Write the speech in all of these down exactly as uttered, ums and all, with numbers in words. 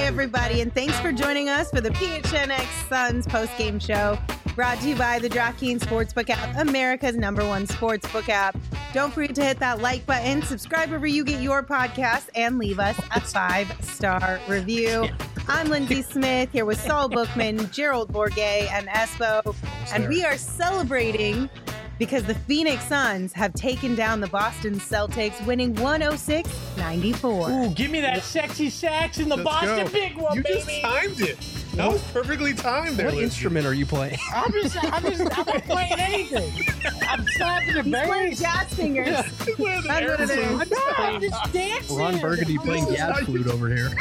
everybody, and thanks for joining us for the P H N X Suns post-game show, brought to you by the DraftKings Sportsbook app, America's number one sportsbook app. Don't forget to hit that like button, subscribe wherever you get your podcast, and leave us a five-star review. I'm Lindsay Smith, here with Saul Bookman, Gerald Bourguet, and Espo, and we are celebrating because the Phoenix Suns have taken down the Boston Celtics, winning one oh six ninety-four. Ooh, give me that sexy sax in the Let's Boston go. big one, you baby. You just timed it. That was perfectly timed there. What Lindsay. instrument are you playing? I'm just, I'm just, I'm not playing anything. I'm slapping the He's playing bass. jazz fingers. That's what it is. No, I'm just dancing. Ron Burgundy playing Oh, jazz flute over here.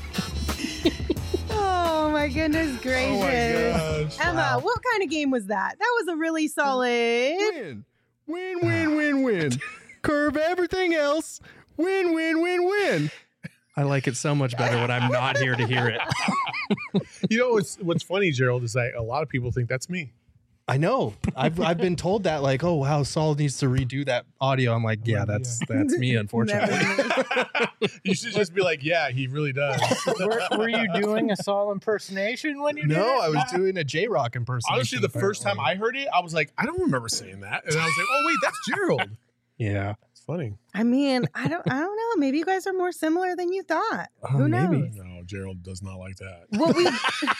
Oh my goodness gracious. Oh my gosh. Emma, Wow. what kind of game was that? That was a really solid. Win. Win, win, win, win. Curve everything else. Win, win, win, win. I like it so much better when I'm not here to hear it. You know what's what's funny, Gerald, is like a lot of people think that's me. I know. I've I've been told that, like, oh wow, Saul needs to redo that audio. I'm like, yeah, that's that's me, unfortunately. You should just be like, yeah, he really does. were, were you doing a Saul impersonation when you did No, it? I was doing a J Rock impersonation. Honestly, the first time apparently. I heard it, I was like, I don't remember saying that, and I was like, oh wait, that's Gerald. Yeah. It's funny. I mean, I don't I don't know. Maybe you guys are more similar than you thought. Oh, Who knows? maybe. No, Gerald does not like that. What we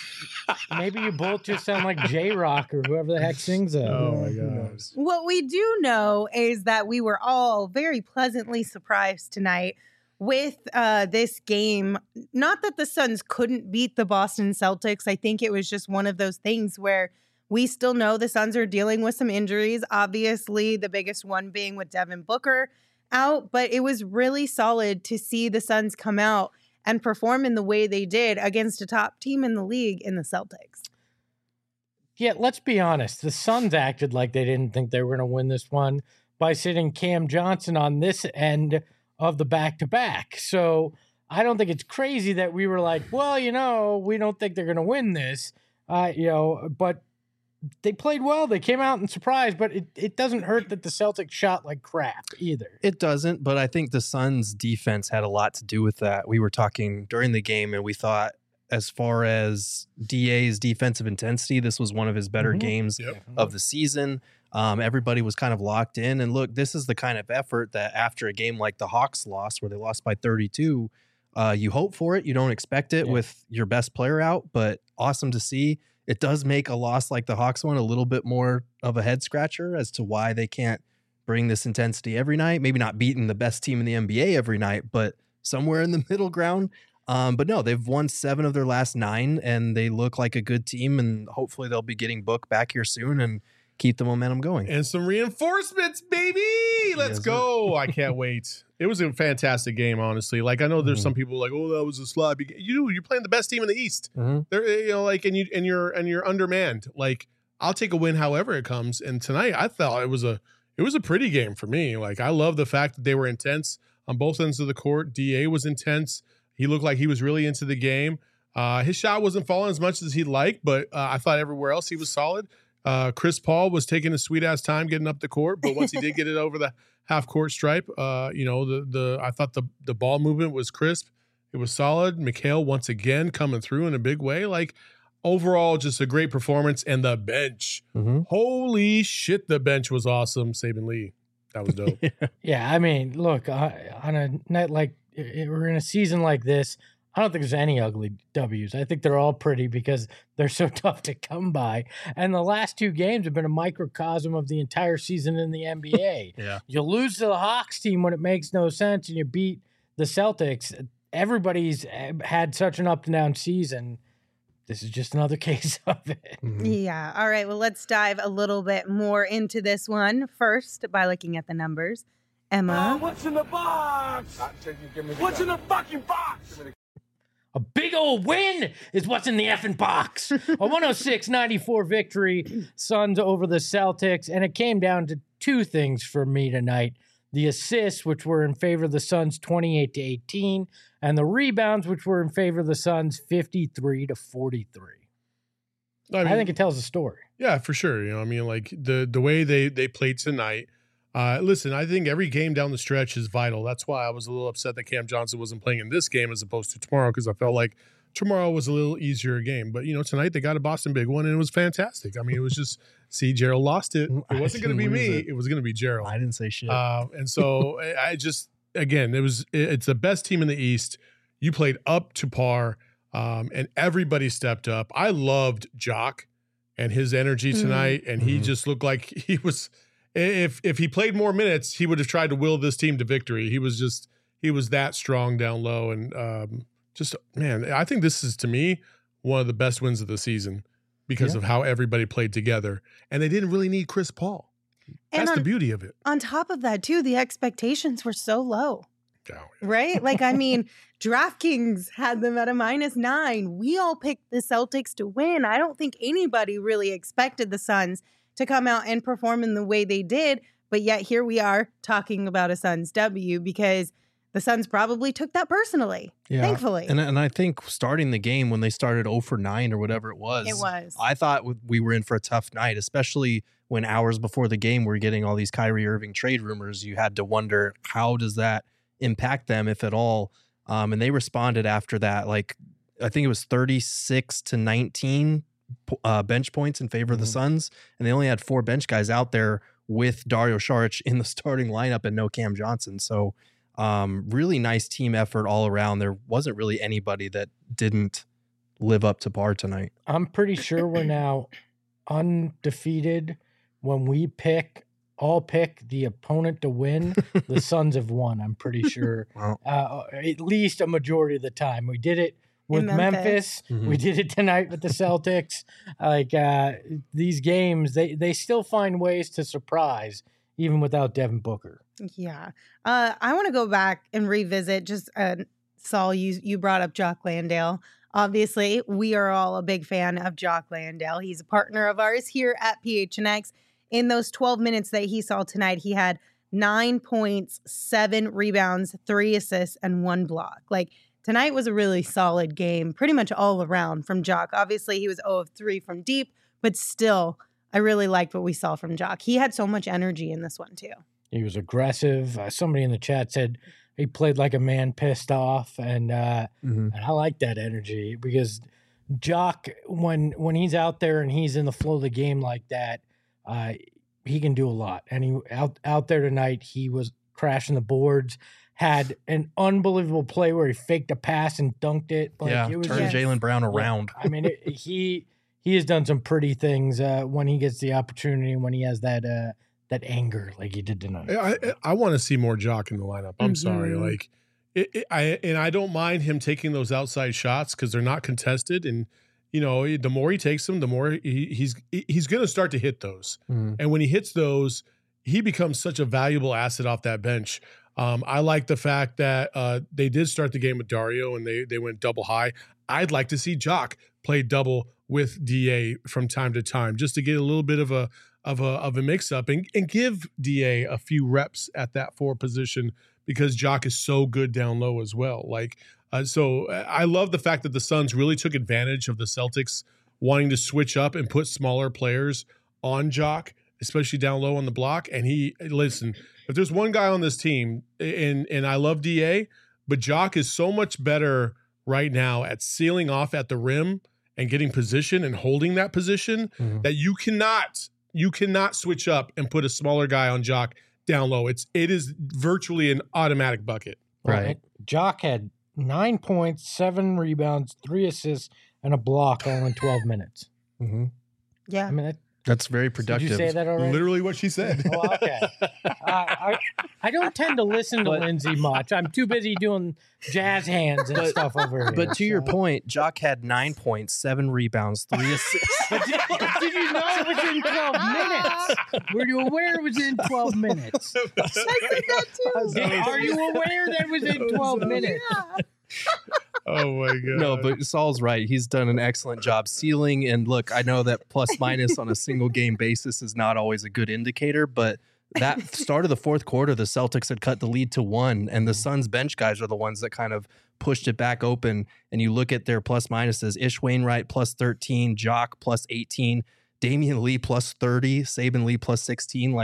Maybe you both just sound like J-Rock or whoever the heck sings that. Oh my Who gosh. knows? what we do know is that we were all very pleasantly surprised tonight with uh, this game. Not that the Suns couldn't beat the Boston Celtics. I think it was just one of those things where we still know the Suns are dealing with some injuries. Obviously, the biggest one being with Devin Booker out. But it was really solid to see the Suns come out and perform in the way they did against a top team in the league in the Celtics. Yeah, let's be honest. The Suns acted like they didn't think they were going to win this one by sitting Cam Johnson on this end of the back-to-back. So I don't think it's crazy that we were like, well, you know, we don't think they're going to win this. Uh, you know, but they played well. They came out and surprised, but it, it doesn't hurt that the Celtics shot like crap either. It doesn't, but I think the Suns' defense had a lot to do with that. We were talking during the game, and we thought, as far as D A's defensive intensity, this was one of his better Mhm. games Yep. of the season. Um, everybody was kind of locked in. And look, this is the kind of effort that after a game like the Hawks lost, where they lost by thirty-two, uh, you hope for it. You don't expect it Yeah. with your best player out, but awesome to see. It does make a loss like the Hawks one a little bit more of a head scratcher as to why they can't bring this intensity every night. Maybe not beating the best team in the N B A every night, but somewhere in the middle ground. Um, but no, they've won seven of their last nine, and they look like a good team, and hopefully they'll be getting Book back here soon and keep the momentum going. And some reinforcements, baby. Let's Yes, sir. go. I can't wait. It was a fantastic game, honestly. Like, I know there's Mhm. some people like, oh, that was a sloppy game. You, you're playing the best team in the East. Mhm. They're, you know, like, and you and you're and you're undermanned. Like, I'll take a win however it comes. And tonight, I thought it was a it was a pretty game for me. Like, I love the fact that they were intense on both ends of the court. D A was intense. He looked like he was really into the game. Uh, his shot wasn't falling as much as he'd like, but uh, I thought everywhere else he was solid. Uh, Chris Paul was taking a sweet ass time getting up the court, but once he did get it over the half court stripe, uh, you know, the the I thought the the ball movement was crisp. It was solid. Mikhail once again coming through in a big way. Like, overall, just a great performance. And the bench, Mhm. holy shit, the bench was awesome. Saban Lee, that was dope. Yeah, I mean, look, uh, on a night like i- we're in a season like this, I don't think there's any ugly W's. I think they're all pretty because they're so tough to come by. And the last two games have been a microcosm of the entire season in the N B A. Yeah. You lose to the Hawks team when it makes no sense, and you beat the Celtics. Everybody's had such an up and down season. This is just another case of it. Mhm. Yeah. All right. Well, let's dive a little bit more into this one first by looking at the numbers. Emma. What's in the box? What's in the fucking box? A big old win is what's in the effing box. A one oh six ninety-four victory, Suns over the Celtics. And it came down to two things for me tonight. The assists, which were in favor of the Suns twenty-eight to eighteen, and the rebounds, which were in favor of the Suns fifty-three to forty-three. I, mean, I think it tells a story. yeah, for sure. You know, I mean, like the the way they they played tonight. Uh, listen, I think every game down the stretch is vital. That's why I was a little upset that Cam Johnson wasn't playing in this game as opposed to tomorrow, because I felt like tomorrow was a little easier game, but you know, tonight they got a Boston big one and it was fantastic. I mean, it was just, see, Gerald lost it. It wasn't going to be me. It. it was going to be Gerald. I didn't say shit. Uh, and so I just, again, it was, it's the best team in the East. You played up to par, um, and everybody stepped up. I loved Jock and his energy tonight, mm-hmm. and he mm-hmm. just looked like he was, if if he played more minutes, he would have tried to will this team to victory. He was just, he was that strong down low, and um, just, man, I think this is, to me, one of the best wins of the season because yeah. of how everybody played together, and they didn't really need Chris Paul. That's on, the beauty of it. On top of that, too, the expectations were so low. Oh, yeah. Right? Like, I mean, DraftKings had them at a minus nine. We all picked the Celtics to win. I don't think anybody really expected the Suns to come out and perform in the way they did. But yet here we are talking about a Suns W because the Suns probably took that personally, yeah. thankfully. And, and I think starting the game when they started oh for nine or whatever it was, it was. I thought we were in for a tough night, especially when hours before the game we're getting all these Kyrie Irving trade rumors. You had to wonder, how does that impact them, if at all? Um, and they responded after that. Like, I think it was thirty-six to nineteen uh, bench points in favor mm-hmm. of the Suns. And they only had four bench guys out there with Dario Saric in the starting lineup and no Cam Johnson. So um, really nice team effort all around. There wasn't really anybody that didn't live up to par tonight. I'm pretty sure we're now undefeated when we pick all pick the opponent to win. The Suns have won, I'm pretty sure. Wow. Uh, at least a majority of the time. We did it with Memphis. Memphis. Mm-hmm. We did it tonight with the Celtics. Like uh, these games, they, they still find ways to surprise, even without Devin Booker. Yeah. Uh, I want to go back and revisit just, uh, Saul, you, you brought up Jock Landale. Obviously, we are all a big fan of Jock Landale. He's a partner of ours here at P H N X. In those twelve minutes that he saw tonight, he had nine points, seven rebounds, three assists, and one block. Like, tonight was a really solid game, pretty much all around from Jock. Obviously, he was zero of three from deep, but still, I really liked what we saw from Jock. He had so much energy in this one, too. He was aggressive. Uh, somebody in the chat said he played like a man pissed off, and uh, mm-hmm. and I like that energy because Jock, when when he's out there and he's in the flow of the game like that, Uh, he can do a lot. And he out out there tonight, he was crashing the boards, had an unbelievable play where he faked a pass and dunked it. Like, yeah, it was turned Jaylen Brown around. I mean, it, he he has done some pretty things uh, when he gets the opportunity and when he has that uh, that anger like he did tonight. I I, I want to see more Jock in the lineup. I'm mm-hmm. sorry, like it, it, I and I don't mind him taking those outside shots because they're not contested. And you know, the more he takes them, the more he, he's he's going to start to hit those. Mm. And when he hits those, he becomes such a valuable asset off that bench. Um, I like the fact that uh, they did start the game with Dario and they they went double high. I'd like to see Jock play double with D A from time to time, just to get a little bit of a of a of a mix up and, and give D A a few reps at that four position because Jock is so good down low as well. Like. Uh, so I love the fact that the Suns really took advantage of the Celtics wanting to switch up and put smaller players on Jock, especially down low on the block. And he, listen, if there's one guy on this team, and and I love D A, but Jock is so much better right now at sealing off at the rim and getting position and holding that position mm-hmm. that you cannot, you cannot switch up and put a smaller guy on Jock down low. It's it is virtually an automatic bucket. Right. right. Jock had Nine points, seven rebounds, three assists, and a block all in twelve minutes. Mm-hmm. Yeah. I mean, that, that's very productive. Did you say that already? Literally what she said. Oh, okay. uh, I, I don't tend to listen to but, Lindsay much. I'm too busy doing jazz hands and but, stuff over here. But to so. your point, Jock had nine points, seven rebounds, three assists. But did, did you know it was in twelve minutes? Were you aware it was in twelve minutes? I said that too. Are you aware that it was in twelve minutes? Yeah. Oh my god. No, but Saul's right. He's done an excellent job sealing. And look, I know that plus minus on a single game basis is not always a good indicator, but that start of the fourth quarter, the Celtics had cut the lead to one, and the Suns bench guys are the ones that kind of pushed it back open. And you look at their plus minuses: Ish Wainwright plus thirteen, Jock plus eighteen, Damian Lee plus thirty, Saben Lee plus sixteen. Like,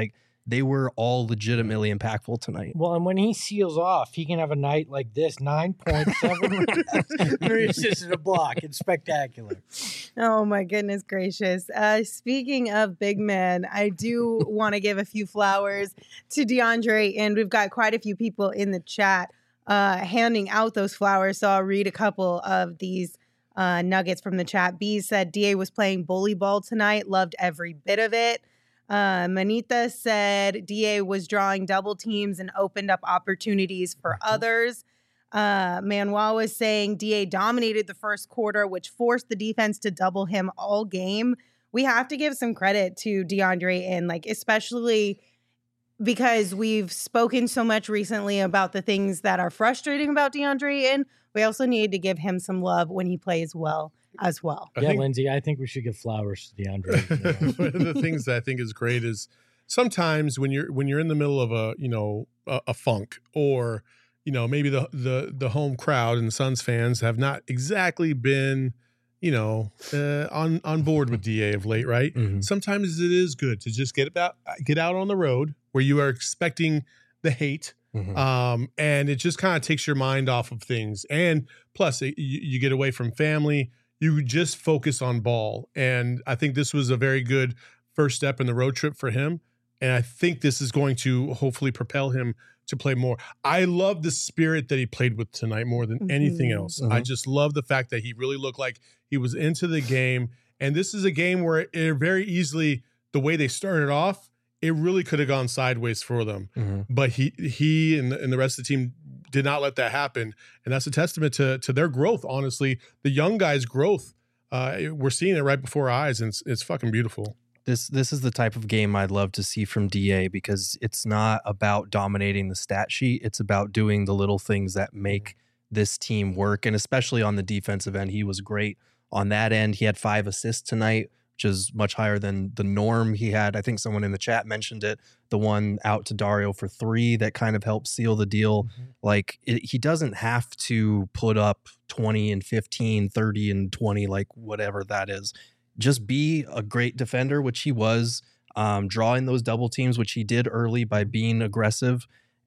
they were all legitimately impactful tonight. Well, and when he seals off, he can have a night like this, nine point seven three assists and a block. It's spectacular. Oh, my goodness gracious. Uh, speaking of big men, I do want to give a few flowers to DeAndre, and we've got quite a few people in the chat uh, handing out those flowers, so I'll read a couple of these uh, nuggets from the chat. B said, D A was playing bully ball tonight, loved every bit of it. Uh, Manita said D A was drawing double teams and opened up opportunities for others. Uh, Manuel was saying D A dominated the first quarter, which forced the defense to double him all game. We have to give some credit to DeAndre, and like especially because we've spoken so much recently about the things that are frustrating about DeAndre, and we also need to give him some love when he plays well as well. I yeah, think- Lindsay, I think we should give flowers to DeAndre. One of the things that I think is great is sometimes when you're when you're in the middle of a you know a, a funk, or you know maybe the the the home crowd and the Suns fans have not exactly been you know uh, on on board with D A of late, right? Mhm. Sometimes it is good to just get about get out on the road where you are expecting the hate. Mhm. Um, and it just kind of takes your mind off of things. And plus, it, you, you get away from family. You just focus on ball. And I think this was a very good first step in the road trip for him. And I think this is going to hopefully propel him to play more. I love the spirit that he played with tonight more than anything Mhm. else. I Mhm. just love the fact that he really looked like he was into the game. And this is a game where it very easily, the way they started off, it really could have gone sideways for them. Mhm. But he he and the, and the rest of the team did not let that happen. And that's a testament to to their growth, honestly. The young guys' growth, uh, we're seeing it right before our eyes, and it's, it's fucking beautiful. This this is the type of game I'd love to see from D A, because it's not about dominating the stat sheet. It's about doing the little things that make this team work. And especially on the defensive end, he was great on that end. He had five assists tonight, which is much higher than the norm. He had, I think someone in the chat mentioned it, the one out to Dario for three that kind of helped seal the deal. Mm-hmm. Like it, he doesn't have to put up twenty and fifteen, thirty and twenty, like whatever that is. Just be a great defender, which he was, um, drawing those double teams, which he did early by being aggressive.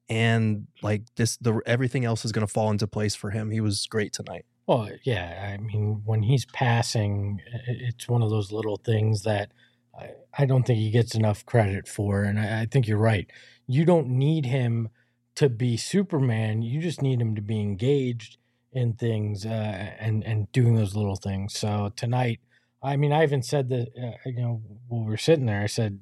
And like this, the everything else is going to fall into place for him. He was great tonight. Well, yeah, I mean, when he's passing, i- it's one of those little things that I, I don't think he gets enough credit for. And I, I think you're right. You don't need him to be Superman. You just need him to be engaged in things uh, and and doing those little things. So tonight, I mean, I even said that, uh, you know, when we were sitting there, I said,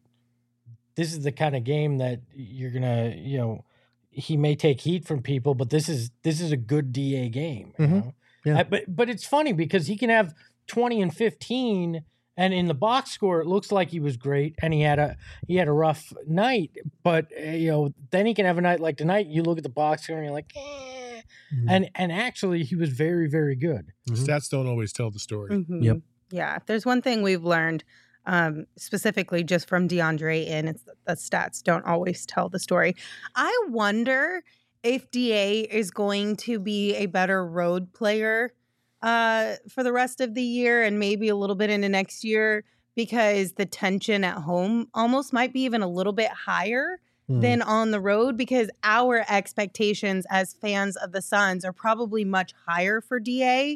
this is the kind of game that you're gonna, you know, he may take heat from people, but this is this is a good D A game. You Mhm. know? Yeah. Uh, but but it's funny because he can have twenty and fifteen, and in the box score it looks like he was great, and he had a he had a rough night. But uh, you know, then he can have a night like tonight. You look at the box score and you're like, eh. Mhm. and and actually he was very very good. Mhm. Stats don't always tell the story. Mhm. Yep. Yeah. If there's one thing we've learned, um, specifically just from DeAndre, and it's that the stats don't always tell the story. I wonder if D A is going to be a better road player uh, for the rest of the year and maybe a little bit into next year, because the tension at home almost might be even a little bit higher Mhm. than on the road, because our expectations as fans of the Suns are probably much higher for D A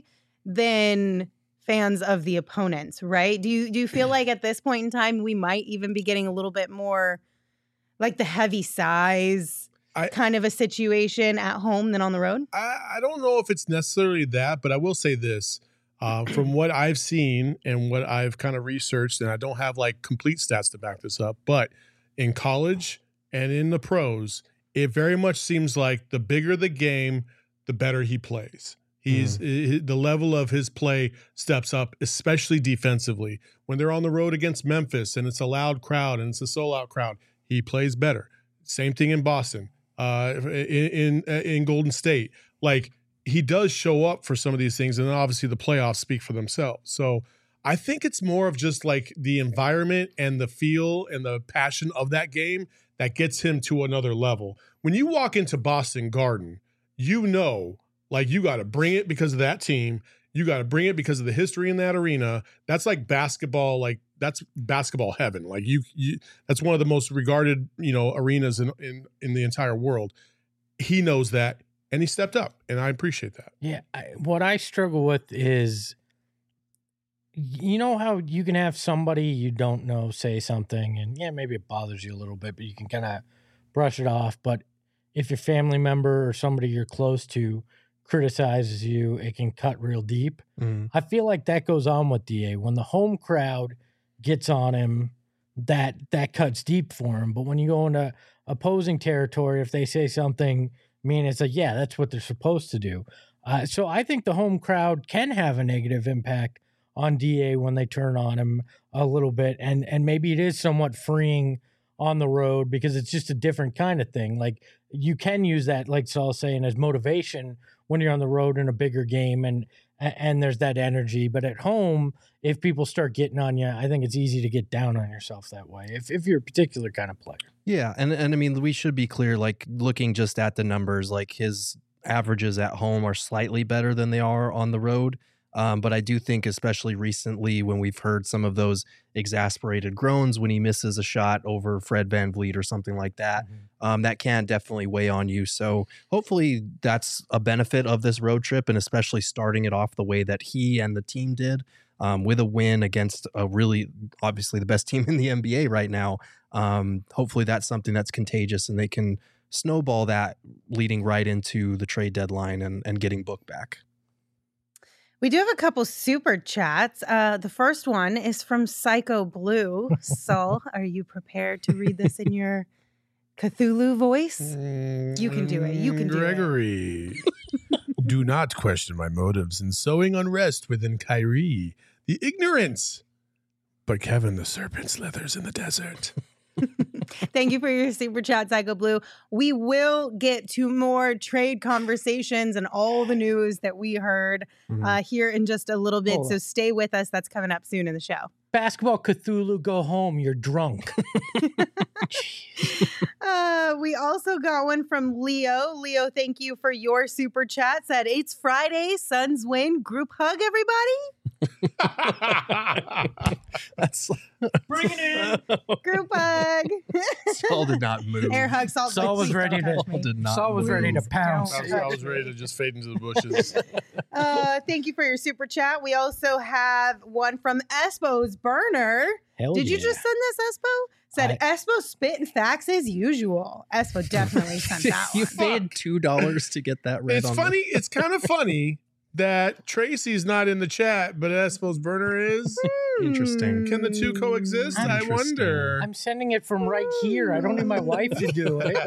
than fans of the opponents, right? Do you do you feel like at this point in time we might even be getting a little bit more like the heavy size I- kind of a situation at home than on the road? I, I don't know if it's necessarily that, but I will say this. Uh, from what I've seen and what I've kind of researched, and I don't have like complete stats to back this up, but in college and in the pros, it very much seems like the bigger the game, the better he plays. He's i- the level of his play steps up, especially defensively. When they're on the road against Memphis and it's a loud crowd and it's a sold out crowd, he plays better. Same thing in Boston, uh, in, in in Golden State. Like he does show up for some of these things, and then obviously the playoffs speak for themselves. So I think it's more of just like the environment and the feel and the passion of that game that gets him to another level. When you walk into Boston Garden, you know, like you got to bring it because of that team. You got to bring it because of the history in that arena. That's like basketball, like that's basketball heaven. Like you, you that's one of the most regarded, you know, arenas in, in, in the entire world. He knows that, and he stepped up, and I appreciate that. Yeah. I, what I struggle with is, you know how you can have somebody you don't know say something, and yeah, maybe it bothers you a little bit, but you can kind of brush it off. But if your family member or somebody you're close to criticizes you, it can cut real deep. Mm. I feel like that goes on with D A. When the home crowd gets on him, that that cuts deep for him. But when you go into opposing territory, if they say something mean, it's like, yeah, that's what they're supposed to do. Uh, so I think the home crowd can have a negative impact on D A when they turn on him a little bit. And and maybe it is somewhat freeing on the road because it's just a different kind of thing. Like you can use that, like Saul's saying, as motivation when you're on the road in a bigger game and and there's that energy. But at home, if people start getting on you, I think it's easy to get down on yourself that way if, if you're a particular kind of player. Yeah, and and I mean, we should be clear, like looking just at the numbers, like his averages at home are slightly better than they are on the road. Um, but I do think, especially recently, when we've heard some of those exasperated groans when he misses a shot over Fred VanVleet or something like that, mm-hmm. um, that can definitely weigh on you. So hopefully that's a benefit of this road trip, and especially starting it off the way that he and the team did, um, with a win against a really, obviously the best team in the N B A right now. Um, hopefully that's something that's contagious and they can snowball that leading right into the trade deadline and, and getting Book back. We do have a couple super chats. Uh, the first one is from Psycho Blue. Saul, are you prepared to read this in your Cthulhu voice? You can do it. You can do Gregory, it. Gregory, do not question my motives in sowing unrest within Kyrie, the ignorant. But Kevin the Serpent slithers in the desert. Thank you for your super chat, Psycho Blue. We will get to more trade conversations and all the news that we heard mm-hmm. uh, here in just a little bit. Oh. So stay with us. That's coming up soon in the show. Basketball Cthulhu, go home. You're drunk. uh, we also got one from Leo. Leo, thank you for your super chat. Said, it's Friday. Suns win. Group hug, everybody. That's bring it in. Group hug. Saul did not move. Air hug. Saul, Saul was ready to. Saul did not Saul was move. ready to pounce. I was, I was ready to just fade into the bushes. Uh, thank you for your super chat. We also have one from Espo's burner. Hell Did yeah. you just send this, Espo? Said I, Espo spitting facts as usual. Espo definitely sent that you one. paid two dollars to get that read. It's on funny. The- it's kind of funny that Tracy's not in the chat, but Espo's burner is. Interesting. Can the two coexist? I wonder. I'm sending it from right here. I don't need my wife to do it.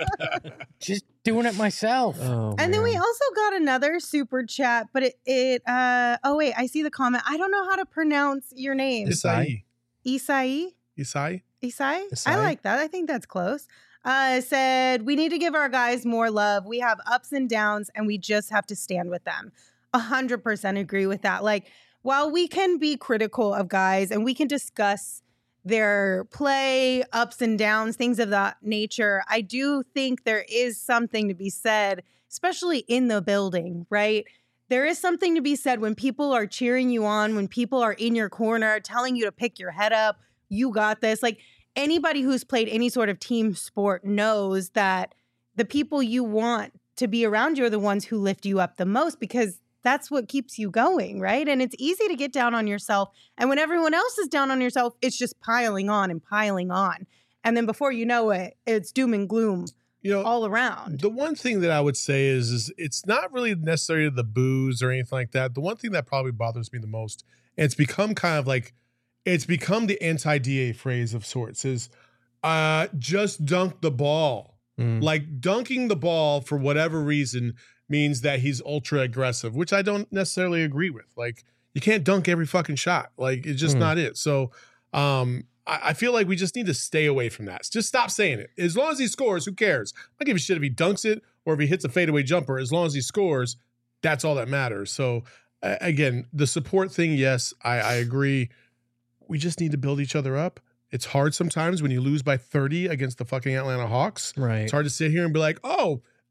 Just doing it myself. Oh, and man. then we also got another super chat, but it, it uh oh wait, I see the comment. I don't know how to pronounce your name. Isai. Isai? Isai? Isai? Isai? I like that. I think that's close. Uh, said, we need to give our guys more love. We have ups and downs, and we just have to stand with them. A hundred percent agree with that. Like, while we can be critical of guys and we can discuss their play, ups and downs, things of that nature, I do think there is something to be said, especially in the building, right? There is something to be said when people are cheering you on, when people are in your corner, telling you to pick your head up, you got this. Like, anybody who's played any sort of team sport knows that the people you want to be around you are the ones who lift you up the most, because that's what keeps you going, right? And it's easy to get down on yourself. And when everyone else is down on yourself, it's just piling on and piling on. And then before you know it, it's doom and gloom, you know, all around. The one thing that I would say is, is it's not really necessarily the booze or anything like that. The one thing that probably bothers me the most, and it's become kind of like, it's become the anti-D A phrase of sorts, is uh, just dunk the ball. Mm. Like dunking the ball for whatever reason means that he's ultra aggressive, which I don't necessarily agree with. Like, you can't dunk every fucking shot. Like, it's just mm. not it. So um, I, I feel like we just need to stay away from that. Just stop saying it. As long as he scores, who cares? I don't give a shit if he dunks it or if he hits a fadeaway jumper. As long as he scores, that's all that matters. So uh, again, the support thing, yes, I, I agree. We just need to build each other up. It's hard sometimes when you lose by thirty against the fucking Atlanta Hawks. Right. It's hard to sit here and be like, oh,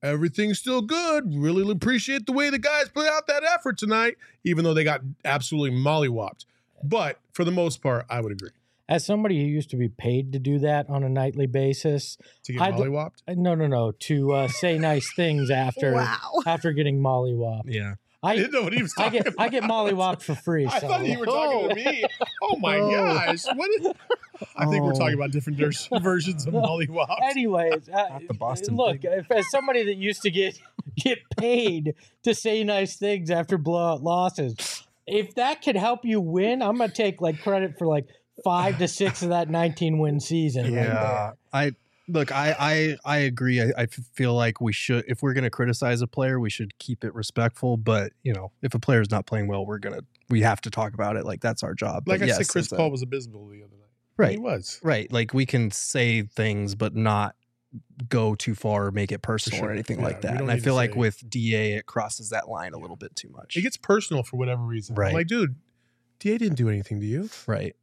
everything's still good. Really appreciate the way the guys put out that effort tonight, even though they got absolutely mollywopped. But for the most part, I would agree. As somebody who used to be paid to do that on a nightly basis, To get I'd- mollywopped? no, no, no, to uh, say nice things after Wow. after getting mollywopped. Yeah. I I didn't know what he was I talking get about. I get mollywopped for free. I so. thought you were talking to me. Oh my Oh. gosh. What is, I think we're Oh. talking about different vers- versions of mollywops. Anyways, uh, Not the Boston look, thing. if, as somebody that used to get get paid to say nice things after blowout losses, if that could help you win, I'm gonna take like credit for like five to six of that nineteen win season. Right Yeah. there. I look, I I I agree. I, I feel like we should, if we're going to criticize a player, we should keep it respectful. But you know, if a player's not playing well, we're gonna we have to talk about it. Like that's our job. Like But I yes, said, Chris it's a- Paul was abysmal the other night. Right. He was. Right. Like we can say things, but not go too far or make it personal sure. or anything Yeah, like we that. don't And I need to feel like say- with D A, it crosses that line a little bit too much. It gets personal for whatever reason. Right. I'm like, dude, D A didn't do anything to you. right.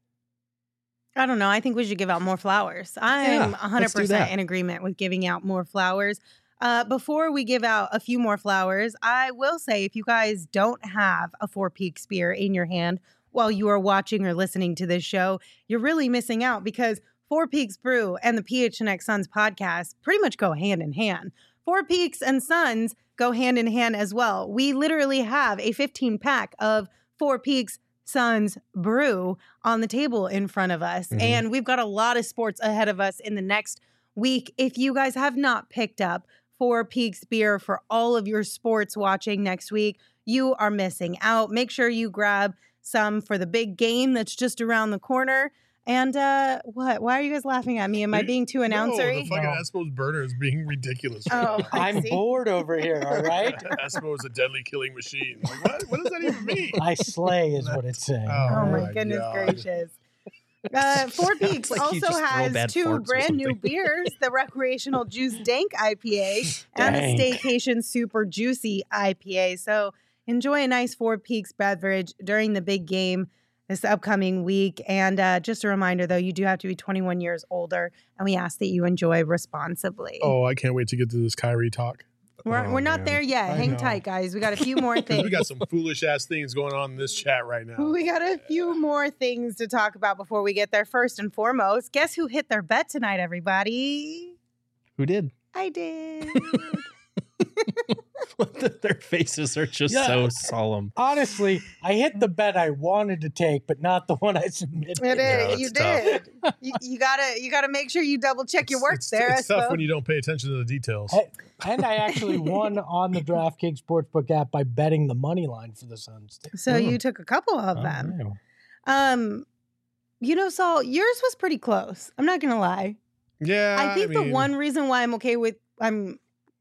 I don't know. I think we should give out more flowers. I'm Yeah, one hundred let's do percent that. in agreement with giving out more flowers. Uh, before we give out a few more flowers, I will say if you guys don't have a Four Peaks beer in your hand while you are watching or listening to this show, you're really missing out because Four Peaks Brew and the P H N X Suns podcast pretty much go hand in hand. Four Peaks and Suns go hand in hand as well. We literally have a fifteen pack of Four Peaks Suns brew on the table in front of us. Mhm. And we've got a lot of sports ahead of us in the next week. If you guys have not picked up Four Peaks beer for all of your sports watching next week, you are missing out. Make sure you grab some for the big game that's just around the corner. And uh, what? Why are you guys laughing at me? Am I being too No, announcery? the fucking No. Espo's burner is being ridiculous. Oh, I'm see? bored over here. All right, Espo is a deadly killing machine. Like, what? What does that even mean? I slay is what it's saying. Oh, Oh my my goodness God. gracious. Uh, Four Sounds Peaks like you also just throw has bad two farts or brand new something. beers, the Recreational Juice Dank I P A and the Dank. Staycation Super Juicy I P A. So enjoy a nice Four Peaks beverage during the big game this upcoming week. And uh, just a reminder, though, you do have to be twenty-one years older, and we ask that you enjoy responsibly. Oh, I can't wait to get to this Kyrie talk. we're oh, we're not man. there yet. I Hang know. tight, guys. We got a few more Because things. we got some foolish ass things going on in this chat right now. We got a few more things to talk about before we get there. First and foremost, guess who hit their bet tonight, everybody? Who did? I did. Their faces are just Yeah. so solemn. Honestly, I hit the bet I wanted to take, but not the one I submitted. It Yeah, is. You it's tough. did. you, you gotta you gotta make sure you double check your work it's, there. It's tough Espo. when you don't pay attention to the details. Hey, And I actually won on the DraftKings Sportsbook app by betting the money line for the Suns. too. So you took a couple of Oh, them. yeah. Um, you know, Saul, yours was pretty close. I'm not gonna lie. Yeah, I think the mean, one reason why I'm okay with I'm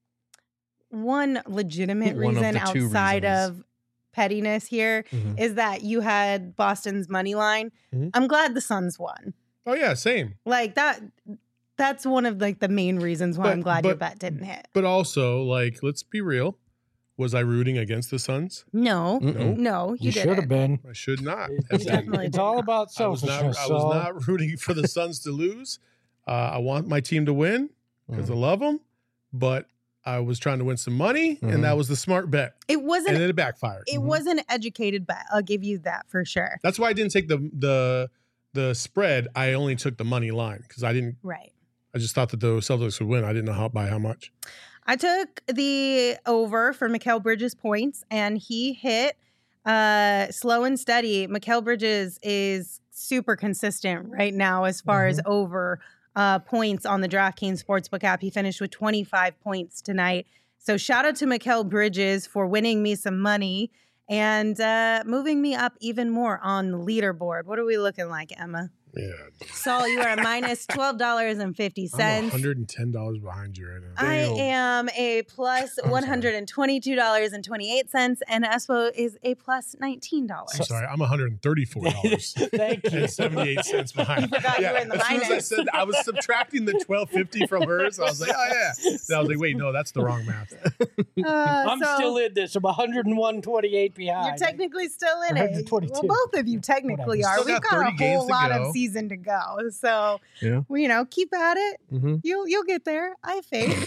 one legitimate One of reason the two outside reasons. of pettiness here Mhm. is that you had Boston's money line. Mhm. I'm glad the Suns won. Oh yeah, same. Like that. That's one of like the main reasons why But- I'm glad your but- bet didn't hit. But also, like, let's be real. Was I rooting against the Suns? No, Mm-mm. no, you, You didn't. should have been. I should not. It's, have You been. definitely it's did all not. about I was selfishness. not. I was so- not rooting for the Suns to lose. Uh, I want my team to win because Mhm. I love them, but I was trying to win some money, Mhm. and that was the smart bet, It wasn't. and then it backfired. it Mhm. was an educated bet. I'll give you that for sure. That's why I didn't take the the the spread. I only took the money line because I didn't. Right. I just thought that the Celtics would win. I didn't know how by how much. I took the over for Mikal Bridges points, and he hit uh, slow and steady. Mikal Bridges is super consistent right now as far as over uh, points on the DraftKings Sportsbook app. He finished with twenty-five points tonight. So shout out to Mikal Bridges for winning me some money and uh, moving me up even more on the leaderboard. What are we looking like, Emma? Yeah, Saul, you are a minus twelve dollars and fifty I'm cents. one hundred and ten dollars behind you right now. I Damn. am a plus I'm one sorry. hundred and twenty-two dollars and twenty-eight cents, and Espo is a plus nineteen dollars. I'm sorry, I'm one hundred and thirty-four dollars. Thank you. And seventy-eight cents behind. You forgot you were in the as soon as I minus. said I was subtracting the twelve fifty from hers, I was like, oh yeah. Then I was like, wait, no, that's the wrong math. Uh, I'm so still in this. I'm one hundred one twenty-eight behind. You're technically still in one it. hundred twenty-two. Well, both of you technically Whatever. are. Still We've got got a thirty games whole to lot go. of season to go. So, Yeah. well, you know, keep at it. Mhm. You'll you'll get there. I have faith.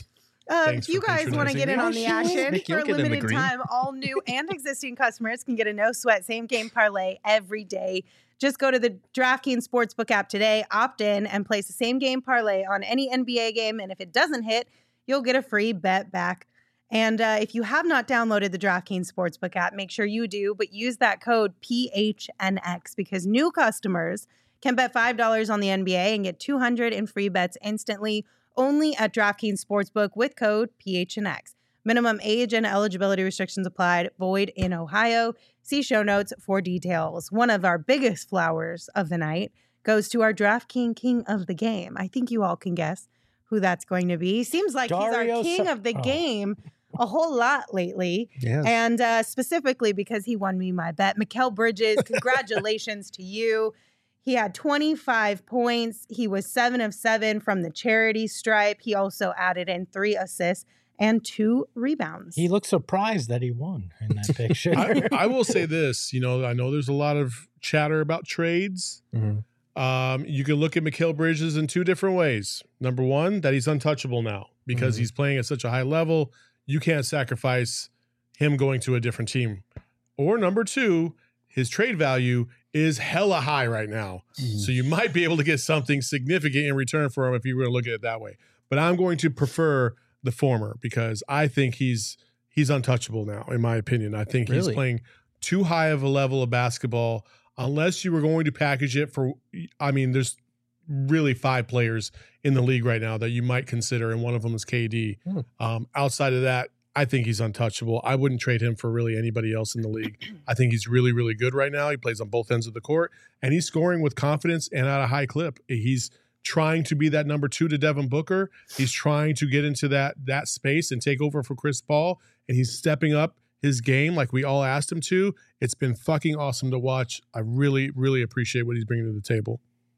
Uh, Thanks if you for guys want to patronizing get me. in on the action, Nick, for you'll a get in the limited green. time, all new and existing customers can get a no sweat same game parlay every day. Just go to the DraftKings Sportsbook app today, opt in, and place the same game parlay on any N B A game. And if it doesn't hit, you'll get a free bet back. And uh, if you have not downloaded the DraftKings Sportsbook app, make sure you do, but use that code P H N X because new customers can bet five dollars on the N B A and get two hundred dollars in free bets instantly only at DraftKings Sportsbook with code P H N X. Minimum age and eligibility restrictions applied. Void in Ohio. See show notes for details. One of our biggest flowers of the night goes to our DraftKings King of the Game. I think you all can guess who that's going to be. Seems like Dario he's our king Sa- of the oh. game a whole lot lately. Yes. And uh, specifically because he won me my bet. Mikal Bridges, congratulations to you. He had twenty-five points. He was seven of seven from the charity stripe. He also added in three assists and two rebounds. He looked surprised that he won in that picture. I, I will say this, you know, I know there's a lot of chatter about trades. Mhm. Um, you can look at Mikal Bridges in two different ways. Number one, that he's untouchable now because Mhm. he's playing at such a high level. You can't sacrifice him going to a different team. Or number two, his trade value is hella high right now. So you might be able to get something significant in return for him if you were to look at it that way. But I'm going to prefer the former because I think he's he's untouchable now, in my opinion. I think he's Really? playing too high of a level of basketball. Unless you were going to package it for, I mean, there's really five players in the league right now that you might consider, and one of them is K D. Hmm. Um, outside of that, I think he's untouchable. I wouldn't trade him for really anybody else in the league. I think he's really, really good right now. He plays on both ends of the court, and he's scoring with confidence and at a high clip. He's trying to be that number two to Devin Booker. He's trying to get into that that space and take over for Chris Paul, and he's stepping up his game like we all asked him to. It's been fucking awesome to watch. I really, really appreciate what he's bringing to the table.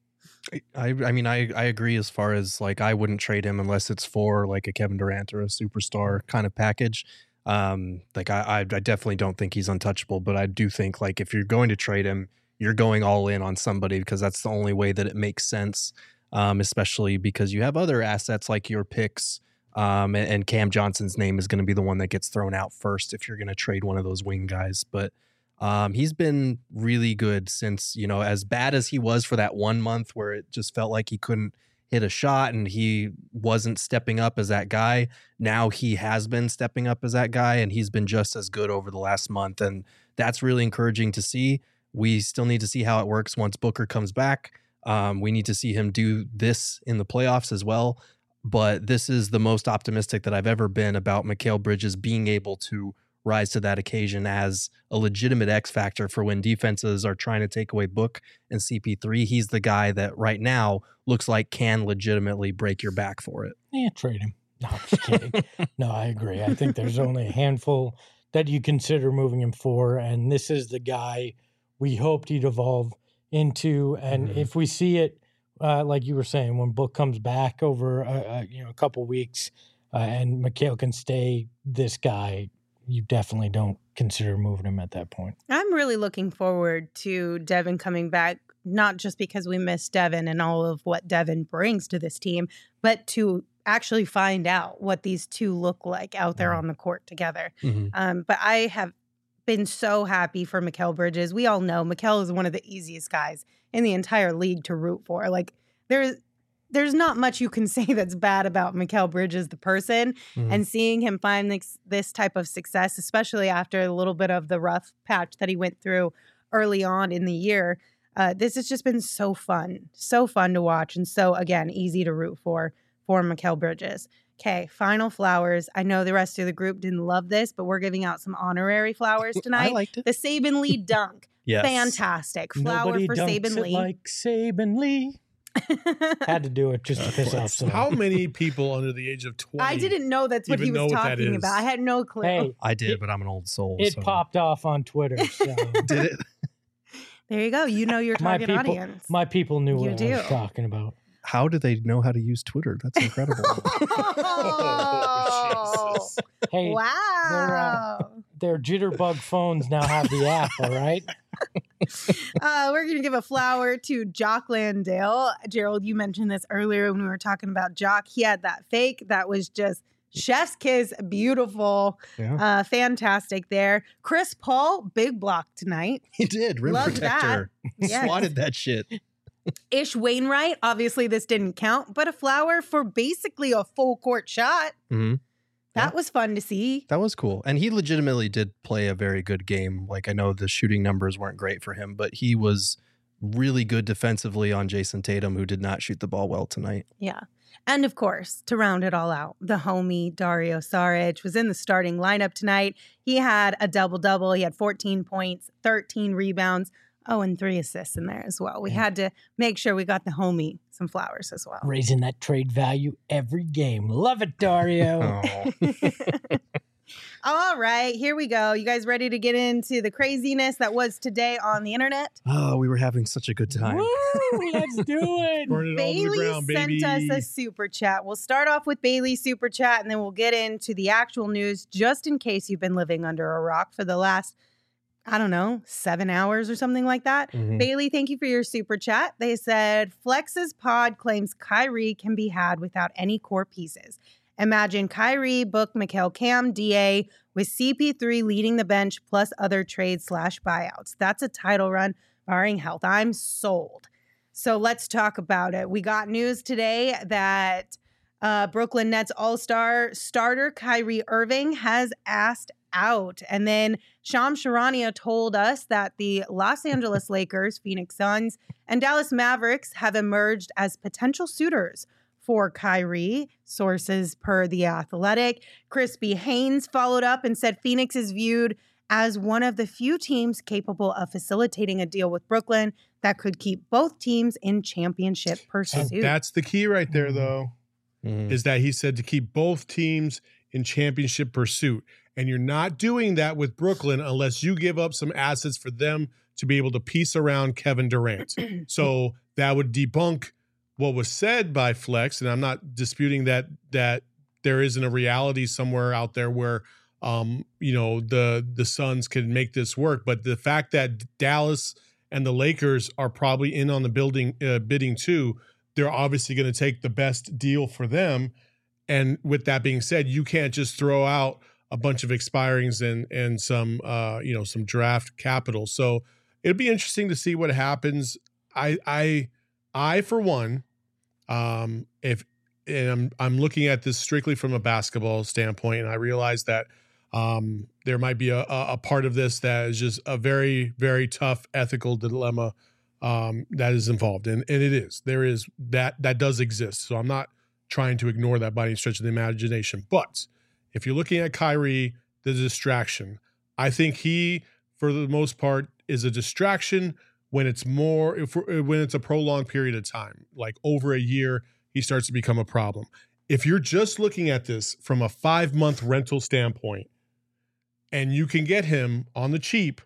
I I mean I I agree as far as like I wouldn't trade him unless it's for like a Kevin Durant or a superstar kind of package. Um, like I I, I definitely don't think he's untouchable, but I do think like if you're going to trade him, you're going all in on somebody because that's the only way that it makes sense. Um, especially because you have other assets like your picks. Um, and, and Cam Johnson's name is going to be the one that gets thrown out first if you're going to trade one of those wing guys. But um, he's been really good since, you know, as bad as he was for that one month where it just felt like he couldn't hit a shot and he wasn't stepping up as that guy. Now he has been stepping up as that guy, and he's been just as good over the last month. And that's really encouraging to see. We still need to see how it works once Booker comes back. Um, we need to see him do this in the playoffs as well. But this is the most optimistic that I've ever been about Mikal Bridges being able to rise to that occasion as a legitimate X factor for when defenses are trying to take away Book and C P three. He's the guy that right now looks like can legitimately break your back for it. Yeah, trade him. No, I'm just kidding. No, I agree. I think there's only a handful that you consider moving him for, and this is the guy we hoped he'd evolve into. And Mhm. if we see it, uh, like you were saying, when Book comes back over a, a, you know a couple weeks, uh, and Mikal can stay this guy, you definitely don't consider moving him at that point. I'm really looking forward to Devin coming back, not just because we miss Devin and all of what Devin brings to this team, but to actually find out what these two look like out there Mhm. on the court together. Mhm. Um, but I have been so happy for Mikal Bridges. We all know Mikal is one of the easiest guys in the entire league to root for. Like there's there's not much you can say that's bad about Mikal Bridges, the person, Mhm. and seeing him find this, this type of success, especially after a little bit of the rough patch that he went through early on in the year. Uh, this has just been so fun, so fun to watch, and so, again, easy to root for for Mikal Bridges. Okay, final flowers. I know the rest of the group didn't love this, but we're giving out some honorary flowers I tonight. liked it. The Saban Lee dunk. Yes. Fantastic. Flower Nobody for dunks Saban it Lee. like Saban Lee. Had to do it just to piss off someone. How many people under the age of twenty? I didn't know that's what even he was know what that talking is. about. I had no clue. Hey, I did, It- but I'm an old soul. it so. popped off on Twitter. So Did it? There you go. You know your my target people, audience. my people knew You what I was do. talking about. How do they know how to use Twitter? That's incredible. Oh, Jesus. Hey, wow. their jitterbug phones now have the app. All right. Uh, we're going to give a flower to Jock Landale. Gerald, you mentioned this earlier when we were talking about Jock. He had that fake that was just Chef's kiss, beautiful, Yeah. uh, fantastic there. Chris Paul, big block tonight. He did. Rim Love protector. He Yes. swatted that shit. Ish Wainwright, obviously this didn't count, but a flower for basically a full court shot. Mhm. That Yeah. was fun to see. That was cool. And he legitimately did play a very good game. Like, I know the shooting numbers weren't great for him, but he was really good defensively on Jason Tatum, who did not shoot the ball well tonight. Yeah. And of course, to round it all out, the homie Dario Saric was in the starting lineup tonight. He had a double-double. He had fourteen points, thirteen rebounds, oh, and three assists in there as well. We Yeah. had to make sure we got the homie some flowers as well. Raising that trade value every game. Love it, Dario. Oh. All right, here we go. You guys ready to get into the craziness that was today on the internet? Oh, we were having such a good time. Woo, let's do it. Burn it all to the Bailey ground, sent baby. us a super chat. We'll start off with Bailey's super chat and then we'll get into the actual news just in case you've been living under a rock for the last, I don't know, seven hours or something like that. Mhm. Bailey, thank you for your super chat. They said Flex's pod claims Kyrie can be had without any core pieces. Imagine Kyrie, Book, Mikal, Cam, D A with C P three leading the bench plus other trades slash buyouts. That's a title run barring health. I'm sold. So let's talk about it. We got news today that uh, Brooklyn Nets All-Star starter Kyrie Irving has asked out. And then Shams Charania told us that the Los Angeles Lakers, Phoenix Suns, and Dallas Mavericks have emerged as potential suitors for Kyrie, sources per The Athletic. Crispy Haynes followed up and said Phoenix is viewed as one of the few teams capable of facilitating a deal with Brooklyn that could keep both teams in championship And pursuit. that's the key right there, though, Mhm. is that he said to keep both teams in championship pursuit. And you're not doing that with Brooklyn unless you give up some assets for them to be able to piece around Kevin Durant. So that would debunk what was said by Flex, and I'm not disputing that that there isn't a reality somewhere out there where um, you know the the Suns can make this work. But the fact that Dallas and the Lakers are probably in on the building uh, bidding too, they're obviously going to take the best deal for them. And with that being said, you can't just throw out a bunch of expirings and and some uh, you know some draft capital. So it'd be interesting to see what happens. I I I for one, um, if and I'm I'm looking at this strictly from a basketball standpoint, and I realize that um, there might be a, a a part of this that is just a very very tough ethical dilemma um, that is involved, and and it is there is that that does exist. So I'm not trying to ignore that by any stretch of the imagination, but if you're looking at Kyrie, the distraction, I think he, for the most part, is a distraction when it's more, if when it's a prolonged period of time, like over a year, he starts to become a problem. If you're just looking at this from a five-month rental standpoint, and you can get him on the cheap,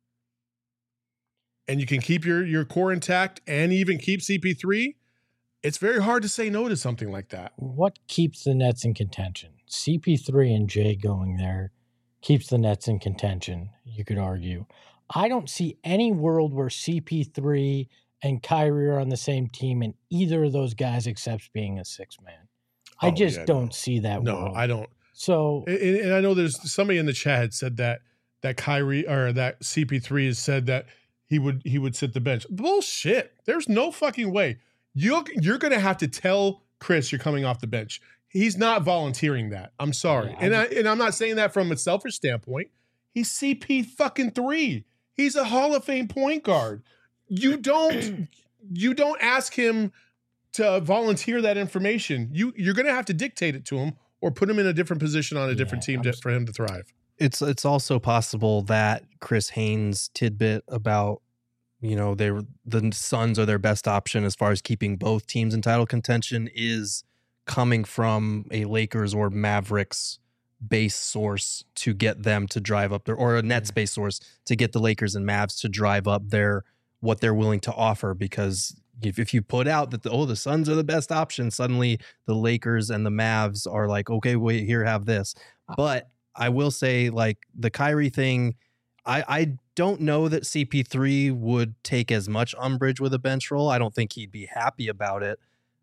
and you can keep your your core intact, and even keep C P three, it's very hard to say no to something like that. What keeps the Nets in contention? C P three and Jay going there keeps the Nets in contention, you could argue. I don't see any world where C P three and Kyrie are on the same team and either of those guys accepts being a six man. I Oh, just yeah, don't no. see that No, world. I don't. So And, and I know there's somebody in the chat had said that that Kyrie or that C P three has said that he would he would sit the bench. Bullshit. There's no fucking way. You're you're gonna have to tell Chris you're coming off the bench. He's not volunteering that. I'm sorry, Yeah, I and I and I'm not saying that from a selfish standpoint. He's C P fucking three. He's a Hall of Fame point guard. You don't you don't ask him to volunteer that information. You you're gonna have to dictate it to him or put him in a different position on a different Yeah, team I'm to, for him to thrive. It's it's also possible that Chris Haynes' tidbit about, you know, they the Suns are their best option as far as keeping both teams in title contention is coming from a Lakers or Mavericks base source to get them to drive up their, or a Nets base source to get the Lakers and Mavs to drive up their what they're willing to offer. Because if, if you put out that the, oh the Suns are the best option, suddenly the Lakers and the Mavs are like, okay, wait, here, have this. But I will say, like, the Kyrie thing, I, I don't know that C P three would take as much umbrage with a bench roll. I don't think he'd be happy about it.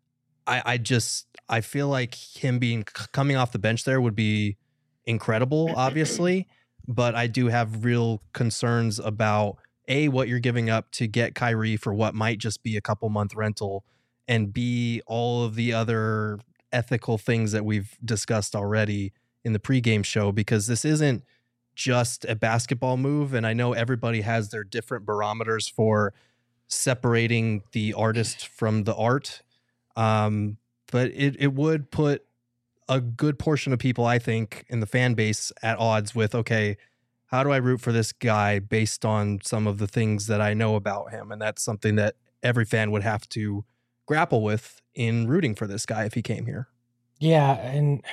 I, I just I feel like him being coming off the bench there would be incredible, obviously, but I do have real concerns about A, what you're giving up to get Kyrie for what might just be a couple month rental, and B, all of the other ethical things that we've discussed already in the pregame show, because this isn't just a basketball move. And I know everybody has their different barometers for separating the artist from the art. Um, but it, it would put a good portion of people, I think, in the fan base at odds with, okay, how do I root for this guy based on some of the things that I know about him? And that's something that every fan would have to grapple with in rooting for this guy if he came here. Yeah, and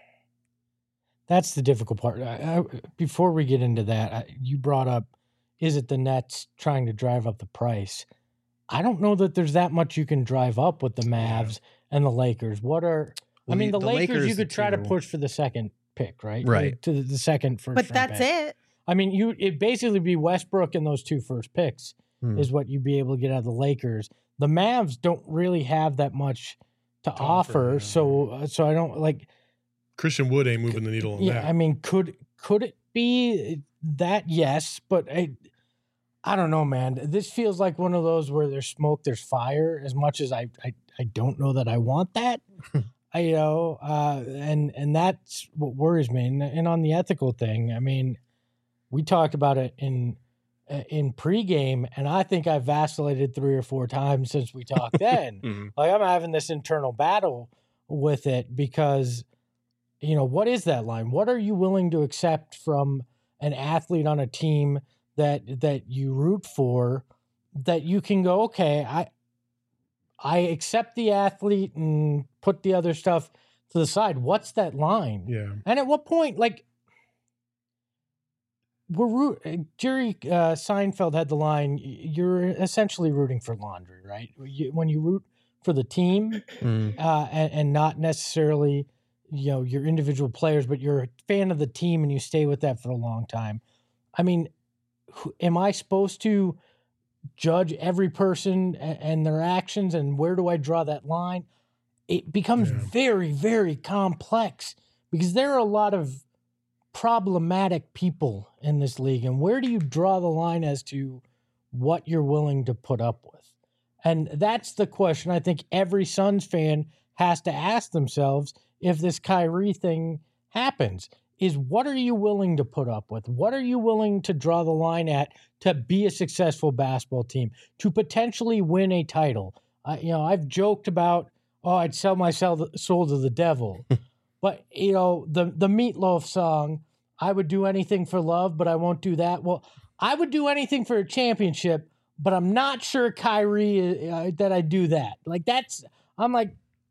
that's the difficult part. I, I, before we get into that, I, you brought up, is it the Nets trying to drive up the price? I don't know that there's that much you can drive up with the Mavs and the Lakers. What are Well, I mean, the, the Lakers, Lakers, you could the try to two- push for the second pick, right? Right. To the, the second first. But round that's pick. it. I mean, you it basically be Westbrook and those two first picks Hmm. is what you'd be able to get out of the Lakers. The Mavs don't really have that much to, To offer, offer, yeah. so uh, so I don't like. Christian Wood ain't moving the needle on Yeah, that. I mean, could could it be that? Yes, but I, I don't know, man. This feels like one of those where there's smoke, there's fire. As much as I, I, I don't know that I want that. I, you know, uh, and and that's what worries me. And, and on the ethical thing, I mean, we talked about it in in pregame, and I think I vacillated three or four times since we talked then. Mhm. Like I'm having this internal battle with it because, you know, what is that line? What are you willing to accept from an athlete on a team that that you root for, that you can go, okay, I I accept the athlete and put the other stuff to the side. What's that line? Yeah. And at what point, like, we're root, Jerry uh, Seinfeld had the line, you're essentially rooting for laundry, right? You, when you root for the team Mm. uh, and, and not necessarily, you know, your individual players, but you're a fan of the team and you stay with that for a long time. I mean, who, am I supposed to judge every person and, and their actions, and where do I draw that line? It becomes Yeah. very, very complex because there are a lot of problematic people in this league. And where do you draw the line as to what you're willing to put up with? And that's the question I think every Suns fan has to ask themselves if this Kyrie thing happens, is what are you willing to put up with? What are you willing to draw the line at to be a successful basketball team, to potentially win a title? I, you know, I've joked about, oh, I'd sell my soul soul to the devil. But, you know, the, the Meatloaf song, I would do anything for love, but I won't do that. Well, I would do anything for a championship, but I'm not sure, Kyrie, uh, that I do that. Like, that's, I'm like,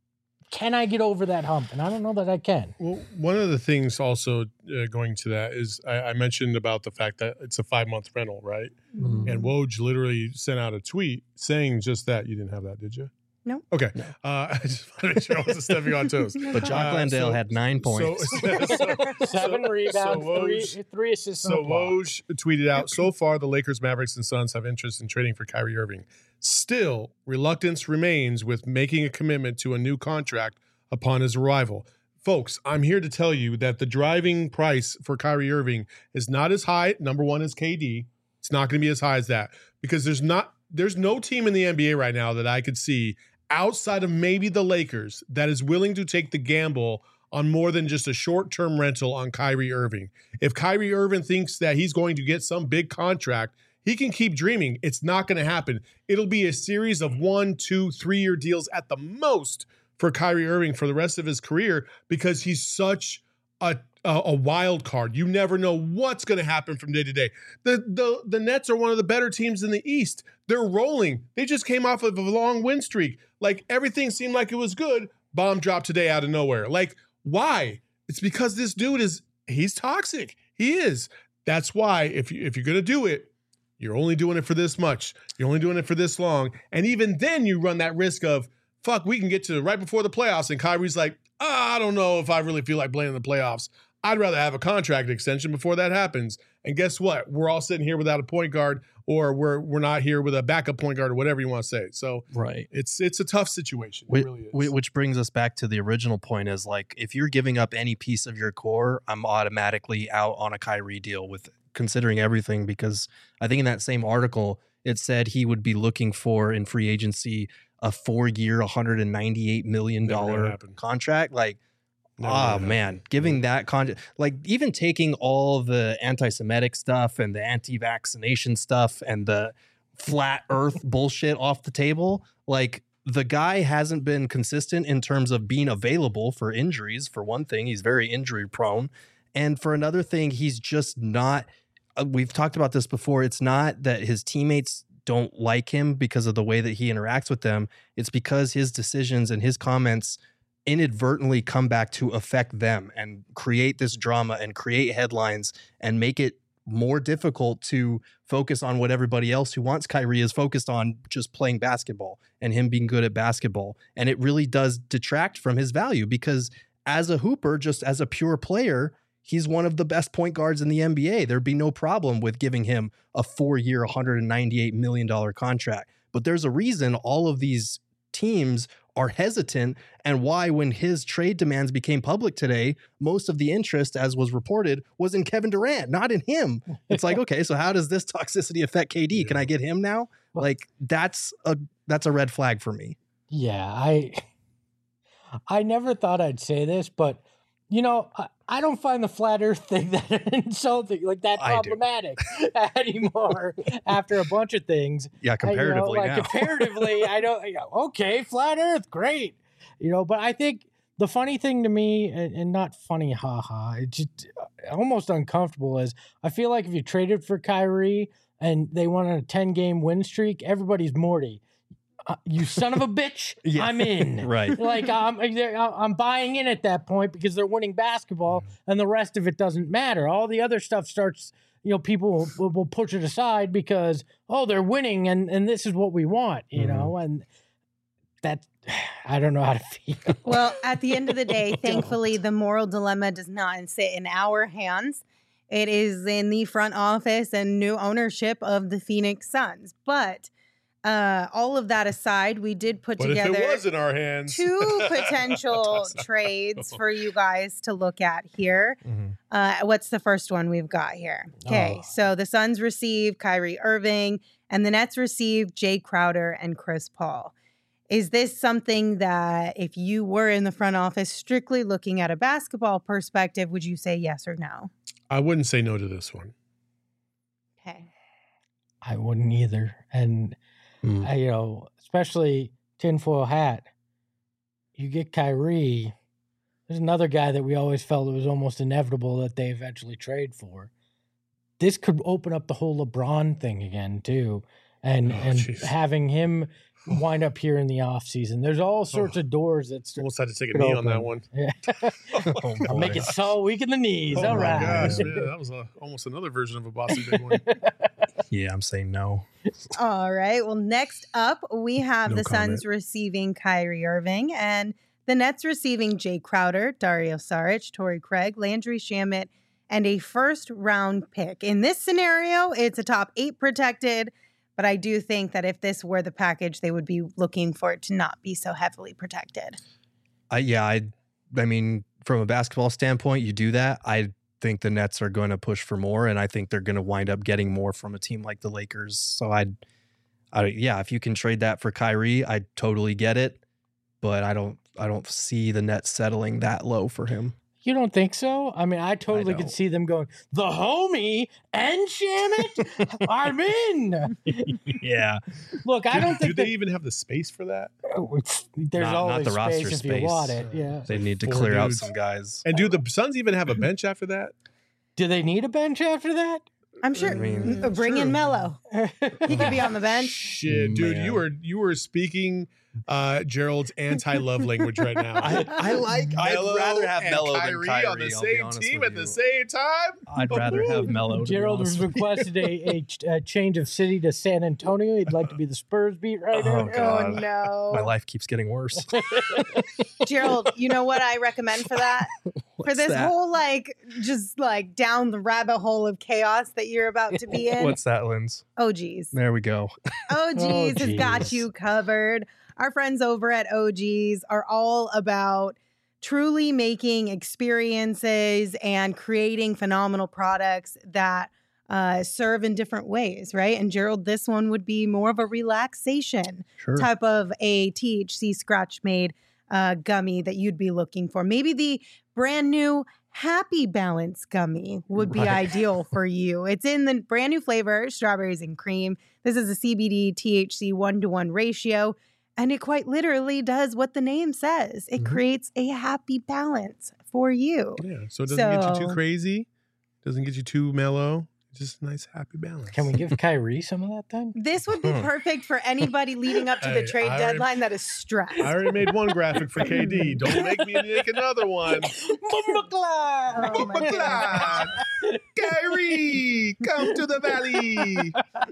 can I get over that hump? And I don't know that I can. Well, one of the things also uh, going to that is I, I mentioned about the fact that it's a five month rental, right? Mhm. And Woj literally sent out a tweet saying just that. You didn't have that, did you? No. Okay. No. Uh, I just want to make sure I wasn't stepping on toes. But Jock Uh, Landale so- had nine points. So, so, Seven so- rebounds, so three, Woj- three assists. So and a block. Woj tweeted out, so far the Lakers, Mavericks, and Suns have interest in trading for Kyrie Irving. Still, reluctance remains with making a commitment to a new contract upon his arrival. Folks, I'm here to tell you that the driving price for Kyrie Irving is not as high, number one, as K D. It's not going to be as high as that because there's not there's no team in the N B A right now that I could see outside of maybe the Lakers that is willing to take the gamble on more than just a short-term rental on Kyrie Irving. If Kyrie Irving thinks that he's going to get some big contract, he can keep dreaming. It's not going to happen. It'll be a series of one, two, three-year deals at the most for Kyrie Irving for the rest of his career because he's such a a, a wild card. You never know what's going to happen from day to day. The, the the Nets are one of the better teams in the East. They're rolling. They just came off of a long win streak. Like everything seemed like it was good. Bomb dropped today out of nowhere. Like why? It's because this dude is he's toxic. He is. That's why if you if you're going to do it, you're only doing it for this much. You're only doing it for this long. And even then you run that risk of fuck, we can get to right before the playoffs. And Kyrie's like, oh, I don't know if I really feel like playing in the playoffs. I'd rather have a contract extension before that happens. And guess what? We're all sitting here without a point guard, or we're we're not here with a backup point guard, or whatever you want to say. So right, it's it's a tough situation. It which, really is. Which brings us back to the original point: is like if you're giving up any piece of your core, I'm automatically out on a Kyrie deal with considering everything, because I think in that same article it said he would be looking for in free agency a four-year, one hundred ninety-eight million dollars contract. Like, Never oh man, giving that con like even taking all the anti-Semitic stuff and the anti-vaccination stuff and the flat earth bullshit off the table, like the guy hasn't been consistent in terms of being available for injuries. For one thing, he's very injury prone. And for another thing, he's just not, uh, we've talked about this before. It's not that his teammates don't like him because of the way that he interacts with them. It's because his decisions and his comments inadvertently come back to affect them and create this drama and create headlines and make it more difficult to focus on what everybody else who wants Kyrie is focused on, just playing basketball and him being good at basketball. And it really does detract from his value, because as a hooper, just as a pure player, he's one of the best point guards in the N B A. There'd be no problem with giving him a four-year, one hundred ninety-eight million dollars contract. But there's a reason all of these teams are hesitant, and why when his trade demands became public today, most of the interest, as was reported, was in Kevin Durant, not in him. It's like, okay, so how does this toxicity affect K D? Can I get him now? Like, that's a that's a red flag for me. Yeah, I I never thought I'd say this, but you know, I, I don't find the flat earth thing that insulting, like that problematic anymore after a bunch of things. Yeah, comparatively I, you know, like now. comparatively, I don't, you know, okay, flat earth, great. You know, but I think the funny thing to me, and, and not funny, haha, it's just almost uncomfortable, is I feel like if you traded for Kyrie and they went on a ten-game win streak, everybody's Morty. Uh, you son of a bitch, yeah. I'm in. Right. Like, I'm, I'm buying in at that point because they're winning basketball and the rest of it doesn't matter. All the other stuff starts, you know, people will, will push it aside because, oh, they're winning and, and this is what we want, you mm-hmm. know, and that, I don't know how to feel. Well, at the end of the day, thankfully, the moral dilemma does not sit in our hands. It is in the front office and new ownership of the Phoenix Suns. But Uh, all of that aside, we did put but together if it was in our hands. two potential trades for you guys to look at here. Mm-hmm. Uh, what's the first one we've got here? Okay, oh. So the Suns receive Kyrie Irving, and the Nets receive Jay Crowder and Chris Paul. Is this something that, if you were in the front office strictly looking at a basketball perspective, would you say yes or no? I wouldn't say no to this one. Okay. I wouldn't either. And Mm. I, you know, especially tinfoil hat. You get Kyrie. There's another guy that we always felt it was almost inevitable that they eventually trade for. This could open up the whole LeBron thing again too, and oh, and geez. having him wind up here in the off season. There's all sorts oh. of doors that st- almost had to take a knee open. on that one. Yeah. oh, I'll make it so weak in the knees. Oh all my right. gosh, man, that was a, almost another version of a Boston big one. Yeah, I'm saying no. All right. Well, next up, we have no the comment. Suns receiving Kyrie Irving and the Nets receiving Jay Crowder, Dario Saric, Torrey Craig, Landry Shamet, and a first round pick. In this scenario, it's a top eight protected, but I do think that if this were the package, they would be looking for it to not be so heavily protected. Uh, yeah, I, I mean, from a basketball standpoint, you do that. I think the Nets are going to push for more, and I think they're going to wind up getting more from a team like the Lakers. So I'd, I yeah, if you can trade that for Kyrie, I totally get it, but I don't, I don't see the Nets settling that low for him. You don't think so? I mean, I totally I could see them going, the homie and Shamet, I'm in. Yeah. Look, I don't do, think do they even have the space for that? There's not, always not the space roster if space. you want it. Yeah. They need to Four clear dudes. out some guys. And do the Suns even have a bench after that? Do they need a bench after that? I'm sure. I mean, uh, bring sure. in Melo. He could be on the bench. Shit, dude, Man. you were you were speaking uh, Gerald's anti-love language right now. I, I like. Mello I'd rather have and Melo Kyrie than Kyrie on the I'll be same honest team with at the you. same time. I'd rather have Melo. Gerald has requested a, a, a change of city to San Antonio. He'd like to be the Spurs beat writer. Oh, God. Oh, no. My life keeps getting worse. Gerald, you know what I recommend for that? for this that? whole like just like down the rabbit hole of chaos that you're about to be in. What's that, Linz? O G's. There we go. O G's has got geez. you covered. Our friends over at O G's are all about truly making experiences and creating phenomenal products that uh, serve in different ways, right? And Gerald, this one would be more of a relaxation Sure. type of a T H C scratch made uh, gummy that you'd be looking for. Maybe the brand new Happy Balance gummy would be Right. ideal for you. It's in the brand new flavor, strawberries and cream. This is a C B D T H C one-to-one ratio, and it quite literally does what the name says. It Mhm. creates a happy balance for you. Yeah. So it doesn't get you too So- crazy. Doesn't get you too mellow. Just a nice happy balance. Can we give Kyrie some of that then? This would be Hmm. perfect for anybody leading up to the Hey, trade I already- deadline that is stressed. I already made one graphic for K D. Don't make me make another one. Oh my goodness. Kyrie, come to the valley.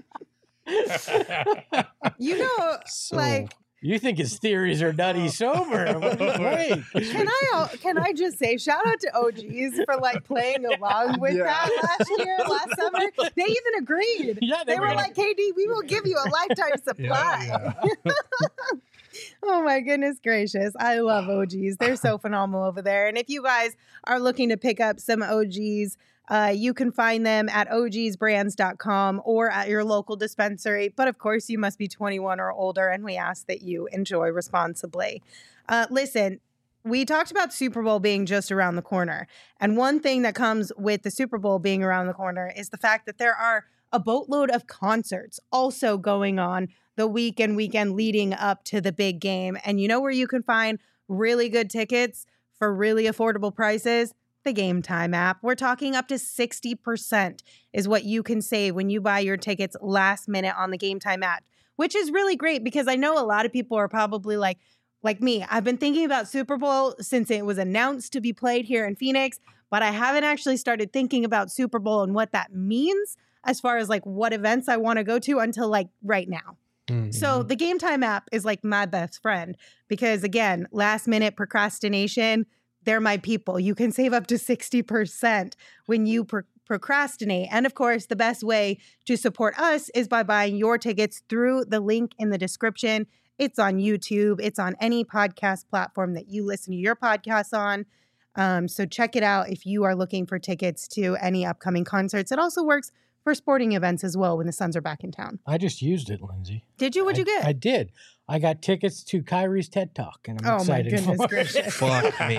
You know, So, like, You think his theories are nutty sober? Wait. can I al- can I just say shout out to O G's for like playing along with Yeah. that last year, last summer. They even agreed. Yeah, They were were like, K D, we will give you a lifetime supply. Yeah, Oh my goodness gracious. I love O G's. They're so phenomenal over there. And if you guys are looking to pick up some O G's, uh, you can find them at O Gs brands dot com or at your local dispensary. But of course, you must be twenty-one or older, and we ask that you enjoy responsibly. Uh, listen, we talked about Super Bowl being just around the corner. And one thing that comes with the Super Bowl being around the corner is the fact that there are a boatload of concerts also going on the week and weekend leading up to the big game. And you know where you can find really good tickets for really affordable prices? The Game Time app. We're talking up to sixty percent is what you can save when you buy your tickets last minute on the Game Time app, which is really great because I know a lot of people are probably like, like me, I've been thinking about Super Bowl since it was announced to be played here in Phoenix, but I haven't actually started thinking about Super Bowl and what that means as far as like what events I want to go to until like right now. mm, So the Game Time app is like my best friend because again, last minute procrastination, they're my people. You can save up to sixty percent when you pro- procrastinate. And of course, the best way to support us is by buying your tickets through the link in the description. It's on YouTube. It's on any podcast platform that you listen to your podcasts on. Um, so check it out if you are looking for tickets to any upcoming concerts. It also works for sporting events as well when the Suns are back in town. I just used it, Lindsay. Did you? What'd you I- get? I did. I got tickets to Kyrie's TED Talk, and I'm Oh my excited goodness for it. gracious. Fuck me.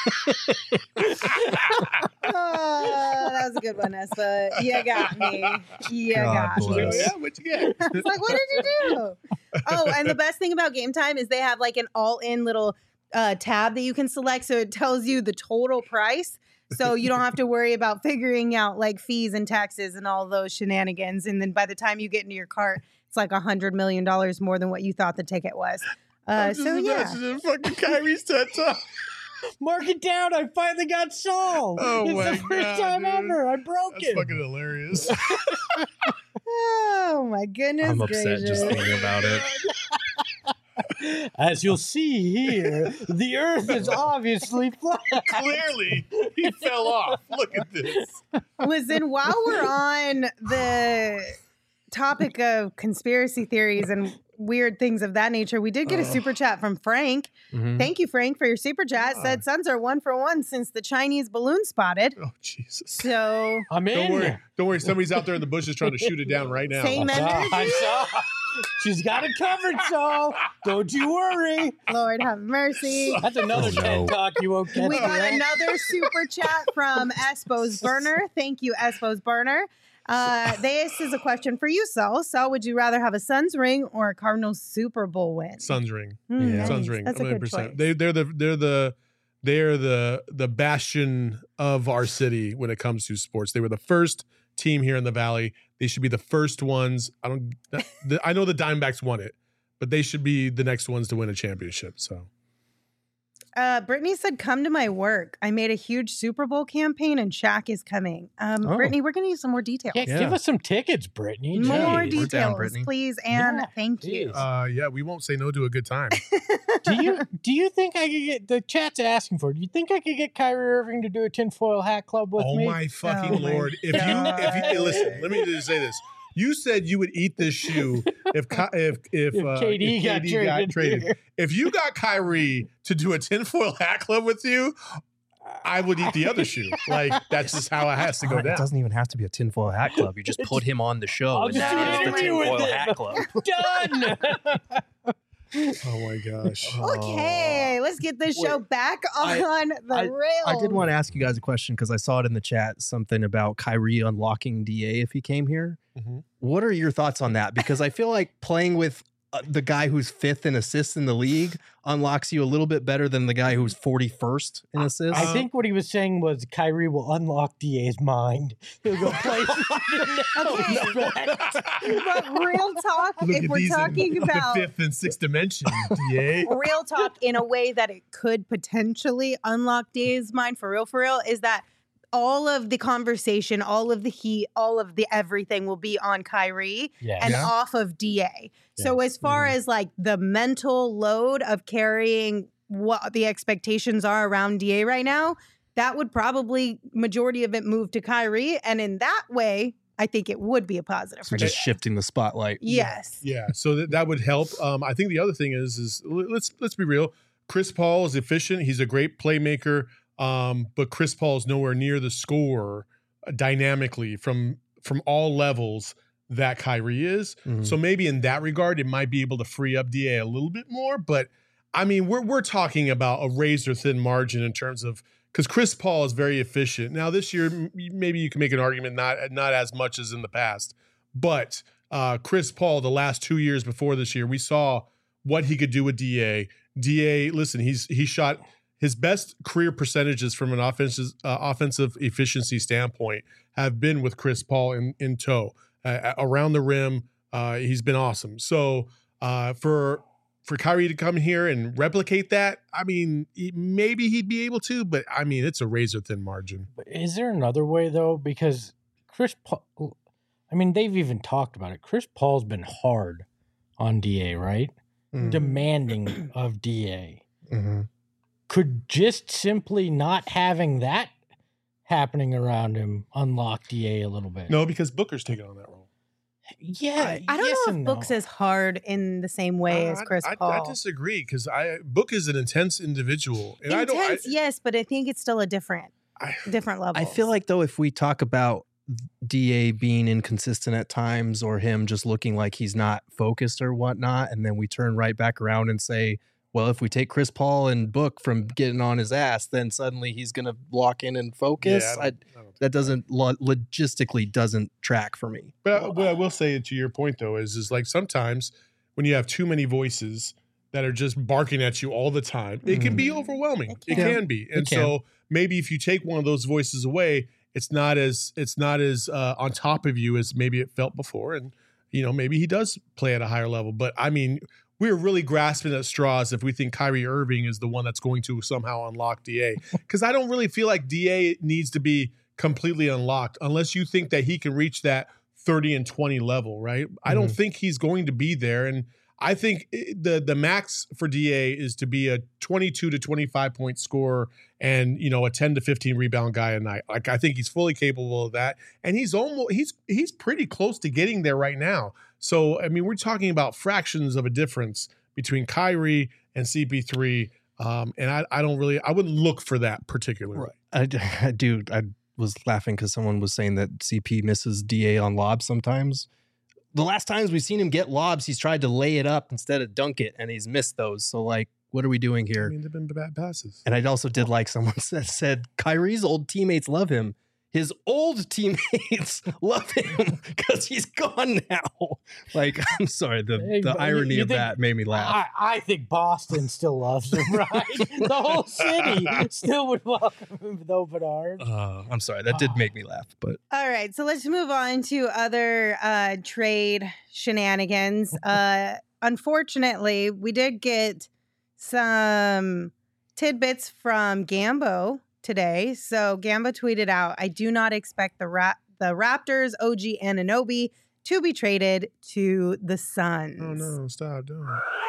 Oh, that was a good one, Espa. You got me. You God got Oh, me. bless. yeah, what you get? It's like, what did you do? Oh, and the best thing about Game Time is they have like an all-in little uh, tab that you can select, so it tells you the total price. So you don't have to worry about figuring out like fees and taxes and all those shenanigans. And then by the time you get into your cart, it's like a hundred million dollars more than what you thought the ticket was. Uh, I'm just so yeah. imagining fucking Kyrie's TED Talk. Mark it down. I finally got solved. Oh it's my the first God, time dude. ever. I broke That's it. fucking hilarious. Oh my goodness I'm upset gracious. just thinking about it. As you'll see here, the Earth is obviously flat. Clearly, he fell off. Look at this. Listen, while we're on the topic of conspiracy theories and weird things of that nature, we did get a Oh. super chat from Frank. Mhm. Thank you, Frank, for your super chat. Yeah. Said Suns are one for one since the Chinese balloon spotted. Oh, Jesus. So I'm in. Don't worry. Don't worry. Somebody's out there in the bushes trying to shoot it down right now. Same I saw, energy. I saw. She's got it covered, so don't you worry. Lord have mercy. That's another Oh, no. TED Talk you won't catch. We got right? another super chat from Espos Burner. Thank you, Espos Burner. Uh, this is a question for you, Saul. Saul, would you rather have a Suns ring or a Cardinals Super Bowl win? Suns ring. Hmm, Yeah. nice. Suns ring. That's a good choice. They they're the they're the they're the the bastion of our city when it comes to sports. They were the first team here in the Valley. They should be the first ones. I don't the, I know the Diamondbacks won it, but they should be the next ones to win a championship. So Uh, Brittany said, come to my work. I made a huge Super Bowl campaign and Shaq is coming. Um, Oh. Brittany, we're going to need some more details. Yeah, Yeah. give us some tickets, Brittany. More Jeez. We're down, details, Brittany. please. And Yeah, thank you. please. Uh, yeah, we won't say no to a good time. do you do you think I could get the chat's asking for? it, Do you think I could get Kyrie Irving to do a tinfoil hat club with oh me? my fucking Oh my lord! If you, if you hey, listen, let me just say this. You said you would eat this shoe if Ky- if if, If uh, K D if got K D got traded. traded. If you got Kyrie to do a tinfoil hat club with you, I would eat the other shoe. Like that's just how it has to go It down. doesn't even have to be a tinfoil hat club. You just put him on the show. I'll and just do it's an the interview with tinfoil him. hat club. Done. Oh my gosh! Okay, let's get this show back on I- the I- rails. I did want to ask you guys a question because I saw it in the chat, something about Kyrie unlocking D A if he came here. Mhm. What are your thoughts on that? Because I feel like playing with uh, the guy who's fifth in assists in the league unlocks you a little bit better than the guy who's forty-first in assists. I think what he was saying was Kyrie will unlock D A's mind. He'll go play. Okay. But real talk, Look if at we're these in talking the about fifth and sixth dimension, D A. real talk in a way that it could potentially unlock Dave's mind for real, for real, is that all of the conversation, all of the heat, all of the everything will be on Kyrie Yeah. and Yeah. off of D A. So Yes. as far Mhm. as like the mental load of carrying what the expectations are around D A right now, that would probably majority of it move to Kyrie. And in that way, I think it would be a positive so for just Dave. shifting the spotlight. Yes. Yeah, so that, that would help. Um, I think the other thing is is l- let's let's be real. Chris Paul is efficient. He's a great playmaker. Um, but Chris Paul is nowhere near the scorer uh, dynamically from from all levels that Kyrie is. Mhm. So maybe in that regard, it might be able to free up D A a little bit more. But I mean, we're we're talking about a razor thin margin in terms of because Chris Paul is very efficient. Now this year, m- maybe you can make an argument not not as much as in the past, but uh, Chris Paul the last two years before this year, we saw what he could do with D A. D A, listen, he's he shot his best career percentages from an offensive uh, offensive efficiency standpoint have been with Chris Paul in in tow uh, around the rim. Uh, he's been awesome. So uh, for for Kyrie to come here and replicate that, I mean, he, maybe he'd be able to, but I mean, it's a razor thin margin. Is there another way though? Because Chris Paul, I mean, they've even talked about it. Chris Paul's been hard on D A, right? Mhm. Demanding of D A. Mhm. Could just simply not having that happening around him unlock D A a little bit? No, because Booker's taking on that role. Yeah, I don't yes know and if no. Book's as hard in the same way as Uh, Chris I, Paul. I, I disagree because I Book is an intense individual, and I don't. I, Intense, yes, but I think it's still a different, I, different level. I feel like though, if we talk about D A being inconsistent at times or him just looking like he's not focused or whatnot, and then we turn right back around and say, well, if we take Chris Paul and Book from getting on his ass, then suddenly he's going to lock in and focus. Yeah, I I, don't- I don't- that doesn't lo- logistically doesn't track for me. But I- what I will say to your point though is is like sometimes when you have too many voices that are just barking at you all the time, it can be overwhelming. It It can. can, be, and can. so maybe if you take one of those voices away, it's not as it's not as uh, on top of you as maybe it felt before, and you know maybe he does play at a higher level. But I mean, we're really grasping at straws if we think Kyrie Irving is the one that's going to somehow unlock D A, because I don't really feel like D A needs to be completely unlocked unless you think that he can reach that thirty and twenty level, right? I don't think he's going to be there. And I think i- the the max for D A is to be a twenty-two to twenty-five point scorer and, you know, a ten to fifteen rebound guy a night. Like I think he's fully capable of that. And he's almost he's he's pretty close to getting there right now. So, I mean, we're talking about fractions of a difference between Kyrie and C P three. Um, and I, I don't really I wouldn't look for that particularly. I, I do. I was laughing because someone was saying that C P misses D A on lobs sometimes. The last times we've seen him get lobs, he's tried to lay it up instead of dunk it, and he's missed those. So, like, what are we doing I here? mean, they've been bad passes. And I also did like someone that said Kyrie's old teammates love him. His old teammates love him because he's gone now. Like, I'm sorry, the, Hey, the but you- irony you of think- that made me laugh. I, I think Boston still loves him, right? The whole city still would welcome him with open arms. Uh, I'm sorry, that did make me laugh. But All right, so let's move on to other uh, trade shenanigans. Uh, unfortunately, we did get some tidbits from Gambo today. So Gambo tweeted out, I do not expect the Ra- the Raptors, O G Anunoby to be traded to the Suns. Oh, no. Stop. Don't.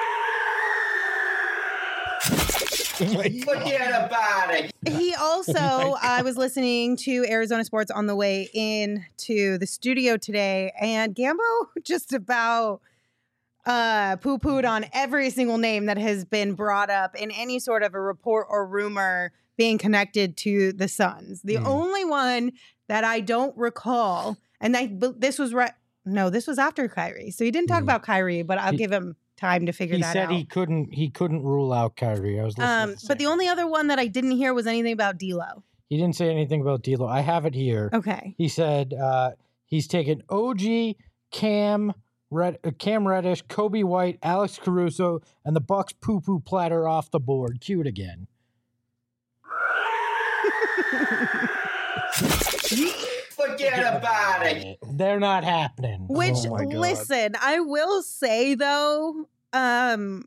Forget about it. He also, Oh I was listening to Arizona Sports on the way into the studio today, and Gambo just about uh, poo-pooed on every single name that has been brought up in any sort of a report or rumor being connected to the Suns. The Hmm. only one that I don't recall, and I, but this was right. No, this was after Kyrie, so he didn't talk Hmm. about Kyrie, but I'll He- give him time to figure He that said out. he couldn't he couldn't rule out Kyrie. I was listening Um, to but the second. only other one that I didn't hear was anything about D'Lo. He didn't say anything about D'Lo. I have it here. Okay. He said uh, he's taken O G, Cam, Red, uh, Cam Reddish, Kobe White, Alex Caruso, and the Bucks poo poo platter off the board. Cue it again. Forget about it. They're not happening. Which, Oh my God. listen, I will say though, um,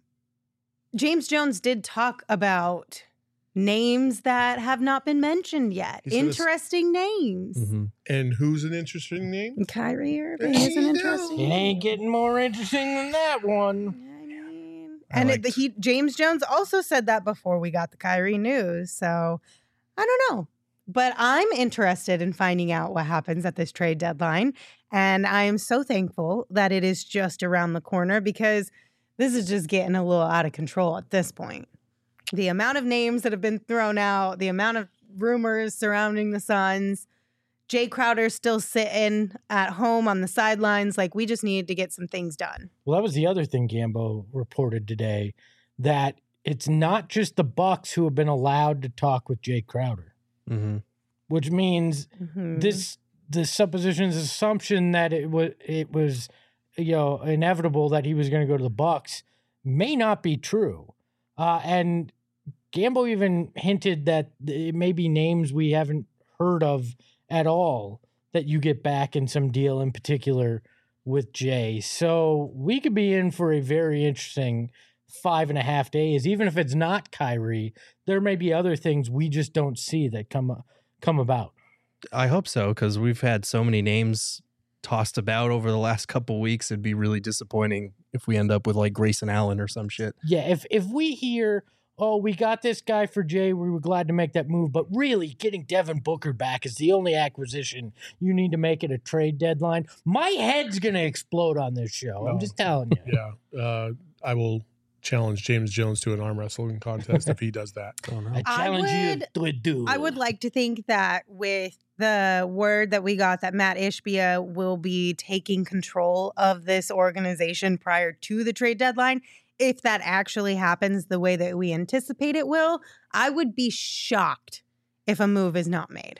James Jones did talk about names that have not been mentioned yet. He said it's- Interesting names. Mhm. And who's an interesting name? Kyrie Irving Hey, isn't no. interesting. It ain't getting more interesting than that one. I mean, I and it, liked- he James Jones also said that before we got the Kyrie news. So I don't know. But I'm interested in finding out what happens at this trade deadline. And I am so thankful that it is just around the corner because this is just getting a little out of control at this point. The amount of names that have been thrown out, the amount of rumors surrounding the Suns. Jay Crowder's still sitting at home on the sidelines. Like, we just needed to get some things done. Well, that was the other thing Gambo reported today, that it's not just the Bucks who have been allowed to talk with Jay Crowder, Mhm. which means Mhm. this the supposition's assumption that it was it was you know inevitable that he was going to go to the Bucks may not be true, uh, and Gambo even hinted that it may be names we haven't heard of at all that you get back in some deal, in particular with Jay. So we could be in for a very interesting five and a half days. Even if it's not Kyrie, there may be other things we just don't see that come come about. I hope so, because we've had so many names tossed about over the last couple weeks. It'd be really disappointing if we end up with like Grayson Allen or some shit. Yeah, if if we hear, oh, we got this guy for Jay, we were glad to make that move, but really getting Devin Booker back is the only acquisition you need to make at a trade deadline, my head's going to explode on this show. I'm No. just telling you. Yeah. Uh, I will challenge James Jones to an arm wrestling contest if he does that. Oh, no. I I challenge would- you to a duel. I would like to think that with the word that we got that Matt Ishbia will be taking control of this organization prior to the trade deadline, if that actually happens the way that we anticipate it will, I would be shocked if a move is not made.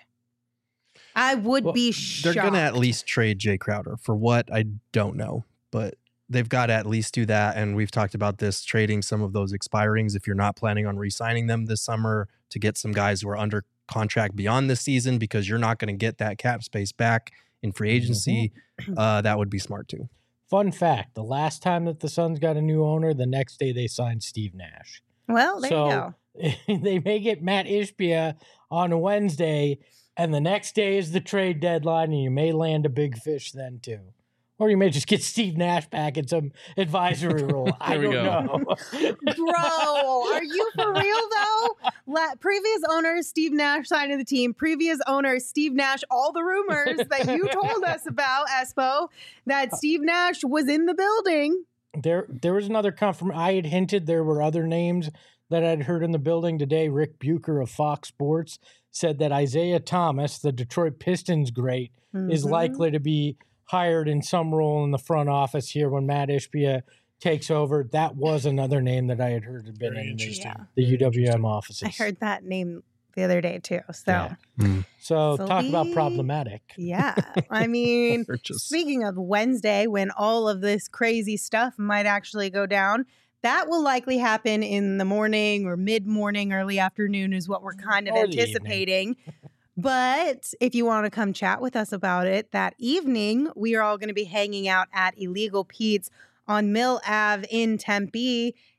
I would Well, be They're shocked. going to at least trade Jay Crowder. For what, I don't know. But they've got to at least do that. And we've talked about this, trading some of those expirings if you're not planning on re-signing them this summer, to get some guys who are under contract beyond this season, because you're not going to get that cap space back in free agency. Uh, that would be smart too. Fun fact, the last time that the Suns got a new owner, the next day they signed Steve Nash. Well, there So- you go. They may get Matt Ishbia on a Wednesday, and the next day is the trade deadline, and you may land a big fish then too. Or you may just get Steve Nash back in some advisory role. I There we don't go. know. Bro, are you for real though? La- previous owner Steve Nash signed to the team. Previous owner Steve Nash. All the rumors that you told us about, Espo, that Steve Nash was in the building. There, there was another confirm. I had hinted there were other names that I'd heard in the building today. Rick Bucher of Fox Sports said that Isaiah Thomas, the Detroit Pistons great, is Mhm. likely to be hired in some role in the front office here when Matt Ishbia takes over. That was another name that I had heard had been Very in the, interesting. Yeah. the Very U W M interesting. offices. I heard that name the other day too. So Yeah. Mm. So So talk about we- problematic. yeah, I mean, Or just- speaking of Wednesday, when all of this crazy stuff might actually go down, that will likely happen in the morning or mid-morning, early afternoon is what we're kind of Or the evening. anticipating. But if you want to come chat with us about it that evening, we are all going to be hanging out at Illegal Pete's on Mill Ave in Tempe.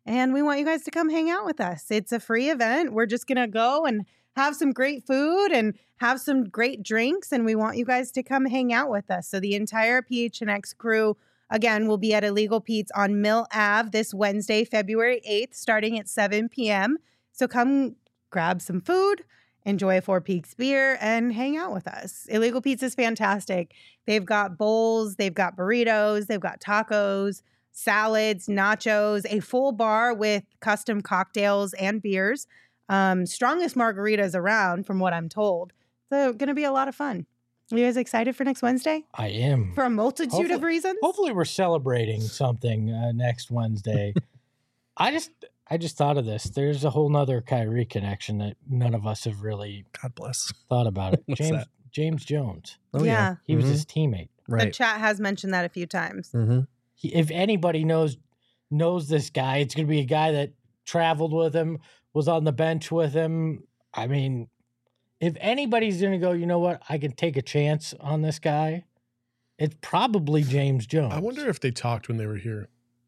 and we want you guys to come hang out with us. It's a free event. We're just going to go and have some great food and have some great drinks, and we want you guys to come hang out with us. So the entire P H N X crew, again, will be at Illegal Pete's on Mill Avenue this Wednesday, February eighth, starting at seven p.m. So come grab some food, enjoy a Four Peaks beer, and hang out with us. Illegal Pete's is fantastic. They've got bowls, they've got burritos, they've got tacos, salads, nachos, a full bar with custom cocktails and beers. Um, strongest margaritas around, from what I'm told. So going to be a lot of fun. Are you guys excited for next Wednesday? I am. For a multitude Hopefully- of reasons? Hopefully we're celebrating something uh, next Wednesday. I just I just thought of this. There's a whole nother Kyrie connection that none of us have really God bless. thought about it. What's James that? James Jones. Oh, Yeah. He was Mhm. his teammate. The Right. chat has mentioned that a few times. Mm-hmm. He, if anybody knows knows this guy, it's going to be a guy that traveled with him, was on the bench with him. I mean, if anybody's going to go, you know what, I can take a chance on this guy, it's probably James Jones. I wonder if they talked when they were here.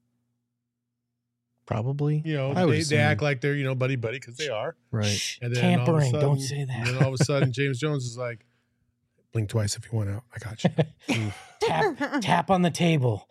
Probably. You know, I would they, they assume. act like they're, you know, buddy buddy because they are. Right. Shh, And then all of a tampering. Don't sudden- say And that. then all of a sudden, James Jones is like, blink twice if you want out. I got you. tap tap on the table.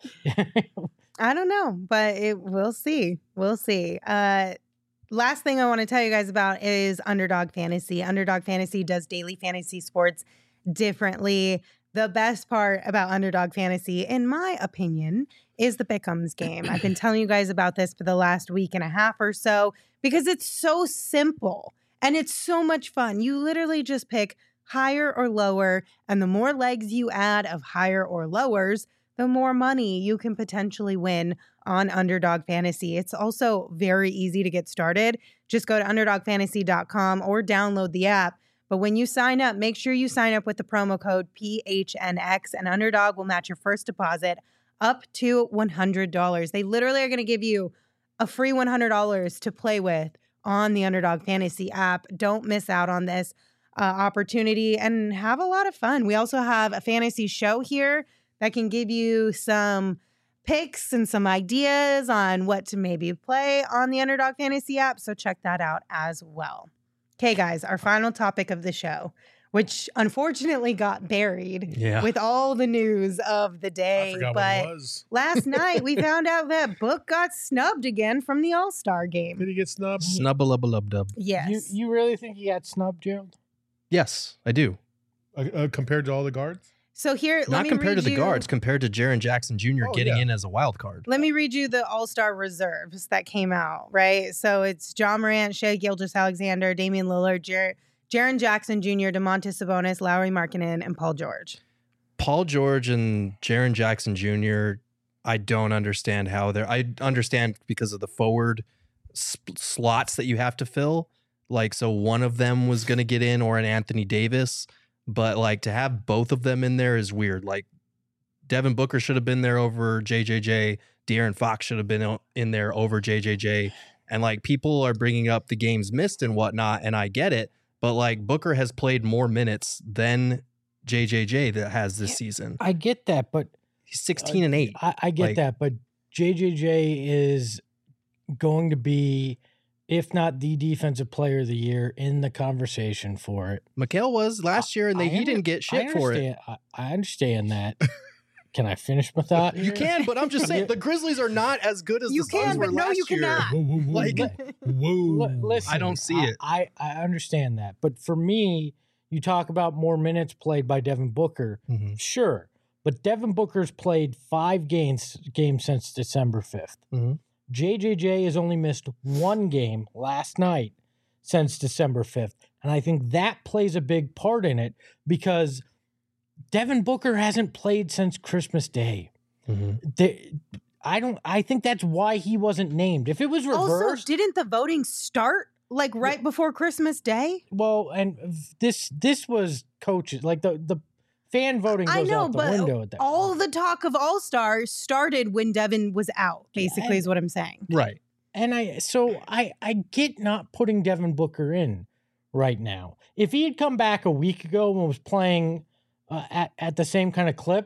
I don't know, but it we'll see. We'll see. Uh, last thing I want to tell you guys about is Underdog Fantasy. Underdog Fantasy does daily fantasy sports differently. The best part about Underdog Fantasy, in my opinion, is the Pick'ems game. I've been telling you guys about this for the last week and a half or so because it's so simple and it's so much fun. You literally just pick higher or lower, and the more legs you add of higher or lowers, the more money you can potentially win on Underdog Fantasy. It's also very easy to get started. Just go to underdog fantasy dot com or download the app. But when you sign up, make sure you sign up with the promo code P H N X, and Underdog will match your first deposit up to one hundred dollars. They literally are going to give you a free one hundred dollars to play with on the Underdog Fantasy app. Don't miss out on this uh, opportunity and have a lot of fun. We also have a fantasy show here that can give you some picks and some ideas on what to maybe play on the Underdog Fantasy app. So check that out as well. Okay, guys, our final topic of the show, which unfortunately got buried Yeah. with all the news of the I day. forgot But what it was. last night we found out that Book got snubbed again from the All-Star Did game. he get snubbed? Snubbalubbalubdub. Yes. You you really think he got snubbed, Joe? Yes, I do. Uh, uh, compared to all the guards? so here, let Not me compared read to the you, guards, compared to Jaren Jackson Junior Oh, getting yeah. in as a wild card. Let me read you the All-Star reserves that came out, right? So it's John Morant, Shea Gilgeous-Alexander, Damian Lillard, Jer- Jaren Jackson Junior, DeMontis Sabonis, Lowry Markkanen, and Paul George. Paul George and Jaren Jackson Junior, I don't understand how they're. I understand because of the forward sp- slots that you have to fill. Like, so one of them was going to get in, or an Anthony Davis, but like to have both of them in there is weird. Like, Devin Booker should have been there over J J J. De'Aaron Fox should have been o- in there over J J J. And like, people are bringing up the games missed and whatnot, and I get it. But like, Booker has played more minutes than J J J that has this Yeah. season. I get that, but He's sixteen and eight. I, I get Like- that, but J J J is going to be, if not the defensive player of the year, in the conversation for it. Mikhail was last year, and they, I he under- didn't get shit I for it. understand- I, I understand that. Can I finish my thought? You here? can, but I'm just saying the Grizzlies are not as good as You the Suns can, were but no, last you year. cannot. Whoa, whoa, whoa. Like, whoa. L- listen, I don't see I- it. I, I understand that, but for me, you talk about more minutes played by Devin Booker. Mhm. Sure, but Devin Booker's played five games games since December fifth. Mhm. J J J has only missed one game last night since December fifth, and I think that plays a big part in it because Devin Booker hasn't played since Christmas Day. Mhm. They- I don't. I think that's why he wasn't named. If it was Also, reversed, didn't the voting start like right before Christmas Day? well, and this this was coaches like the the fan voting goes I know, out the but window at that. all point. the talk of All Stars started when Devin was out, basically, Yeah. is what I'm saying. Right. And I so I I get not putting Devin Booker in right now. If he had come back a week ago and was playing uh, at at the same kind of clip,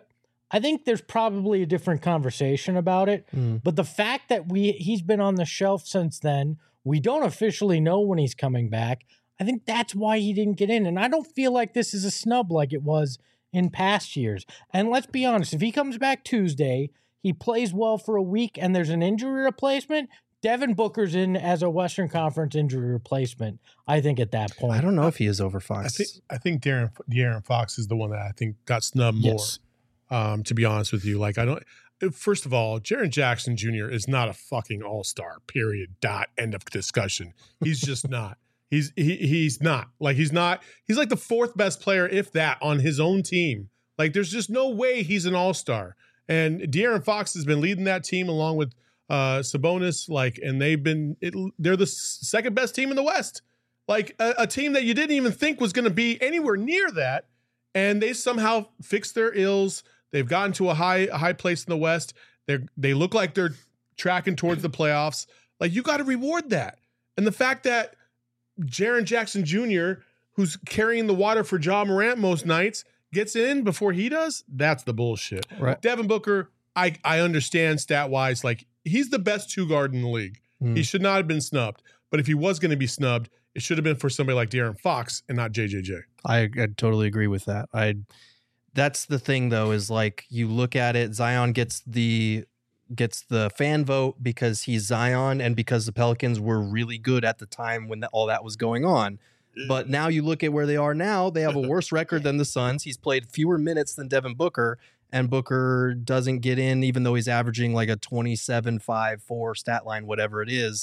I think there's probably a different conversation about it. Mm. But the fact that we he's been on the shelf since then, we don't officially know when he's coming back. I think that's why he didn't get in. And I don't feel like this is a snub like it was in past years. And let's be honest, if he comes back Tuesday, he plays well for a week, and there's an injury replacement, Devin Booker's in as a Western Conference injury replacement, I think, at that point. I don't know if he is over Fox. I think I think Darren De'Aaron Fox is the one that I think got snubbed more. Yes. Um, to be honest with you, like I don't. First of all, Jaren Jackson Junior is not a fucking all-star. Period. Dot. End of discussion. He's just not. He's he he's not. Like he's not. He's like the fourth best player, if that, on his own team. Like there's just no way he's an all-star. And De'Aaron Fox has been leading that team along with uh, Sabonis. Like, and they've been. It, they're the second best team in the West. Like a, a team that you didn't even think was going to be anywhere near that, and they somehow fixed their ills. They've gotten to a high a high place in the West. They they look like they're tracking towards the playoffs. Like you got to reward that. And the fact that Jaren Jackson Junior, who's carrying the water for Ja Morant most nights, gets in before he does, that's the bullshit. Right. Devin Booker, I I understand stat wise, like he's the best two guard in the league. Mm. He should not have been snubbed. But if he was going to be snubbed, it should have been for somebody like De'Aaron Fox and not J J J. I, I totally agree with that. I that's the thing though, is like you look at it, Zion gets the gets the fan vote because he's Zion and because the Pelicans were really good at the time when that, all that was going on. But now you look at where they are now, they have a worse record than the Suns. He's played fewer minutes than Devin Booker, and Booker doesn't get in even though he's averaging like a twenty-seven, five, four stat line, whatever it is.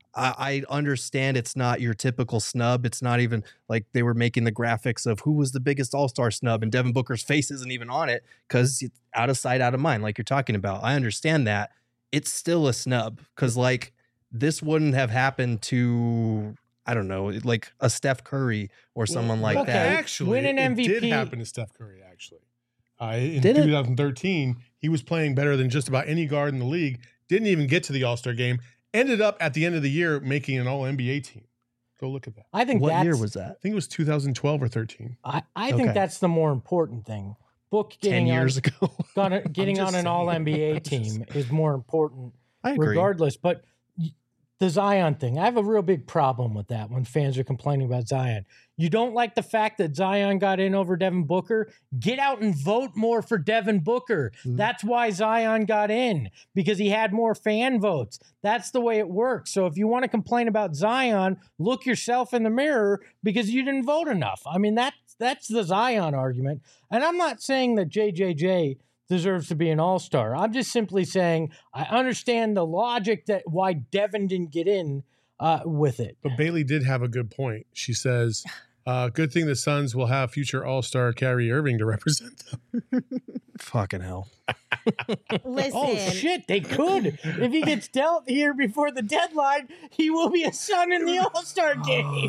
I understand it's not your typical snub. It's not even like they were making the graphics of who was the biggest all-star snub, and Devin Booker's face isn't even on it because it's out of sight, out of mind, like you're talking about. I understand that. It's still a snub because like this wouldn't have happened to, I don't know, like a Steph Curry or someone like okay. that. Win Actually, an it M V P. did happen to Steph Curry, actually. Uh, in Did it? twenty thirteen, he was playing better than just about any guard in the league. Didn't even get to the All-Star game. Ended up at the end of the year making an All N B A team. Go look at that. I think What that's, year was that? I think it was two thousand twelve or thirteen. I, I think Okay. that's the more important thing. Book Ten getting years on, ago. gonna, getting just on an saying. All N B A I'm just team is more important I agree. regardless. But y- the Zion thing, I have a real big problem with that when fans are complaining about Zion. You don't like the fact that Zion got in over Devin Booker? Get out and vote more for Devin Booker. Mhm. That's why Zion got in, because he had more fan votes. That's the way it works. So if you want to complain about Zion, look yourself in the mirror because you didn't vote enough. I mean, that's, that's the Zion argument. And I'm not saying that J J J deserves to be an all-star. I'm just simply saying I understand the logic that why Devin didn't get in uh, with it. But Bailey did have a good point. She says, uh, good thing the Suns will have future All-Star Kyrie Irving to represent them. Fucking hell. Listen, Oh, shit, they could. If he gets dealt here before the deadline, he will be a Sun in the All-Star game.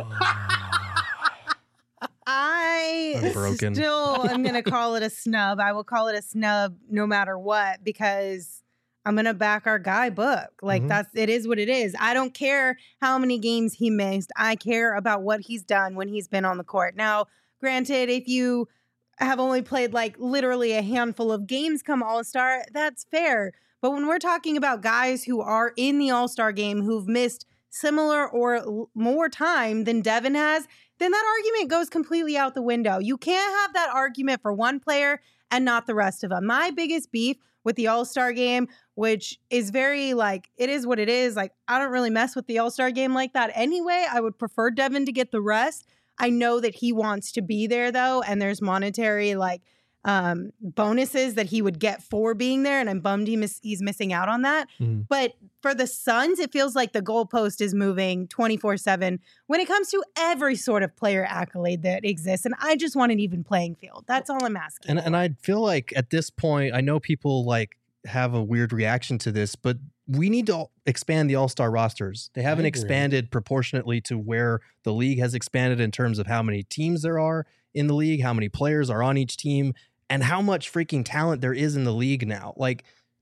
I I'm broken. still am going to call it a snub. I will call it a snub no matter what because I'm going to back our guy Book. Like Mhm. that's it is what it is. I don't care how many games he missed. I care about what he's done when he's been on the court. Now, granted, if you have only played like literally a handful of games come All-Star, that's fair. But when we're talking about guys who are in the All-Star game who've missed similar or l- more time than Devin has, then that argument goes completely out the window. You can't have that argument for one player and not the rest of them. My biggest beef with the All-Star game, which is very like, it is what it is. Like, I don't really mess with the All-Star game like that anyway. I would prefer Devin to get the rest. I know that he wants to be there though, and there's monetary like um, bonuses that he would get for being there, and I'm bummed he miss- he's missing out on that. Mhm. But for the Suns, it feels like the goalpost is moving twenty-four seven when it comes to every sort of player accolade that exists, and I just want an even playing field. That's all I'm asking. And for. and I feel like at this point, I know people like have a weird reaction to this, but we need to expand the all-star rosters. They haven't agree. expanded proportionately to where the league has expanded in terms of how many teams there are in the league, how many players are on each team, and how much freaking talent there is in the league now. Like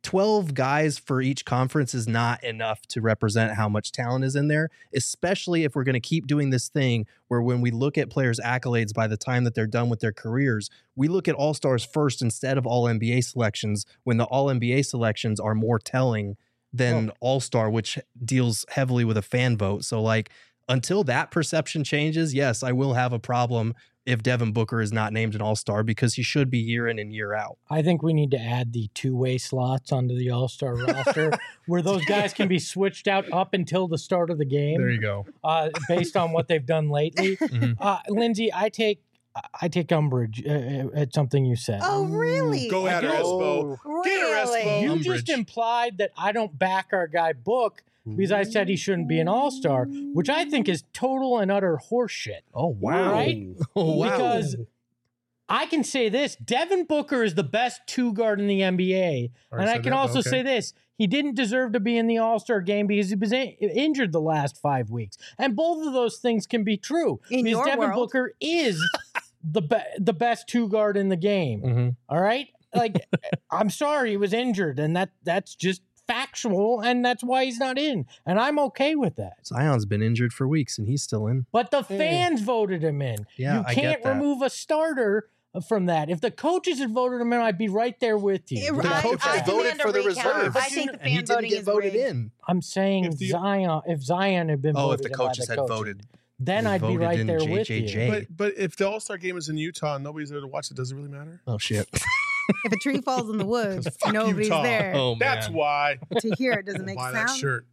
twelve guys for each conference is not enough to represent how much talent is in there, especially if we're going to keep doing this thing where when we look at players' accolades by the time that they're done with their careers, we look at All-Stars first instead of All N B A selections, when the All N B A selections are more telling than oh. All-Star, which deals heavily with a fan vote. So, like, until that perception changes, yes, I will have a problem if Devin Booker is not named an All-Star, because he should be year in and year out. I think we need to add the two-way slots onto the All-Star roster where those guys can be switched out up until the start of the game. There you go. Uh, based on what they've done lately. Mm-hmm. uh, Lindsay, I take I take umbrage uh, at something you said. Oh, really? Go at her, Espo. Really? Get her, Espo. You Umbrage. just implied that I don't back our guy Book because I said he shouldn't be an all-star, which I think is total and utter horseshit. Oh, wow. Right? Oh, wow. Because I can say this, Devin Booker is the best two guard in the N B A. And I can that, also okay. say this, he didn't deserve to be in the All-Star game because he was in- injured the last five weeks. And both of those things can be true. In because your Devin world. Booker is the be- the best two guard in the game. Mm-hmm. All right? Like, I'm sorry he was injured, and that that's just factual, and that's why he's not in. And I'm okay with that. Zion's been injured for weeks, and he's still in. But the fans mm. voted him in. Yeah, you I can't get that. remove a starter from that. If the coaches had voted him in, I'd be right there with you. The I, coaches I voted for the reserves. I think the fan and he didn't voting get is voted rigged. in. I'm saying If the- Zion. If Zion had been Oh, voted if the in by coaches the had coaches, voted. then They I'd be voted right in there J with J J. you. But but if the All-Star game is in Utah and nobody's there to watch it, does it really matter? Oh, shit. If a tree falls in the woods, Fuck nobody's Utah. there. Oh, man. That's why. To hear it doesn't make Buy sound. that shirt.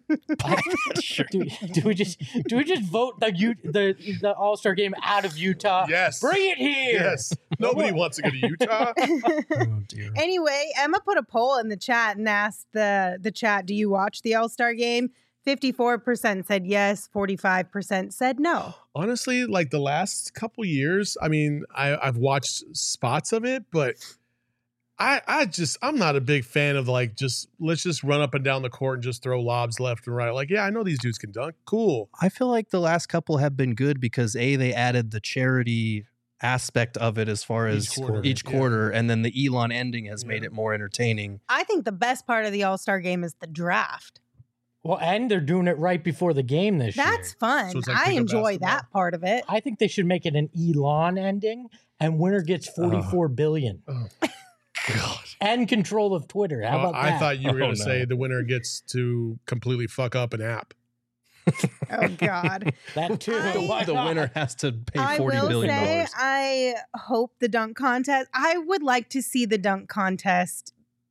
do, do we just do we just vote the U, the the All Star game out of Utah? Yes. Bring it here. Yes. Nobody wants to go to Utah. Oh, dear. Anyway, Emma put a poll in the chat and asked the the chat, "Do you watch the All-Star game?" fifty-four percent said yes, forty-five percent said no. Honestly, like the last couple years, I mean, I, I've watched spots of it, but I I just I'm not a big fan of like just let's just run up and down the court and just throw lobs left and right. Like, yeah, I know these dudes can dunk. Cool. I feel like the last couple have been good because A, they added the charity aspect of it as far as Each quarter, each yeah. quarter, and then the Elon ending has Yeah. made it more entertaining. I think the best part of the All-Star game is the draft. Well, and they're doing it right before the game this That's year. fun. So it's like I pickup enjoy basketball? that part of it. I think they should make it an Elon ending, and winner gets forty-four billion Oh, God. and control of Twitter. How Uh, about I that? thought you were Oh, going to no. say the winner gets to completely fuck up an app. Oh, God. that too. I- Why The not? winner has to pay I forty will billion say, dollars. I hope the dunk contest, I would like to see the dunk contest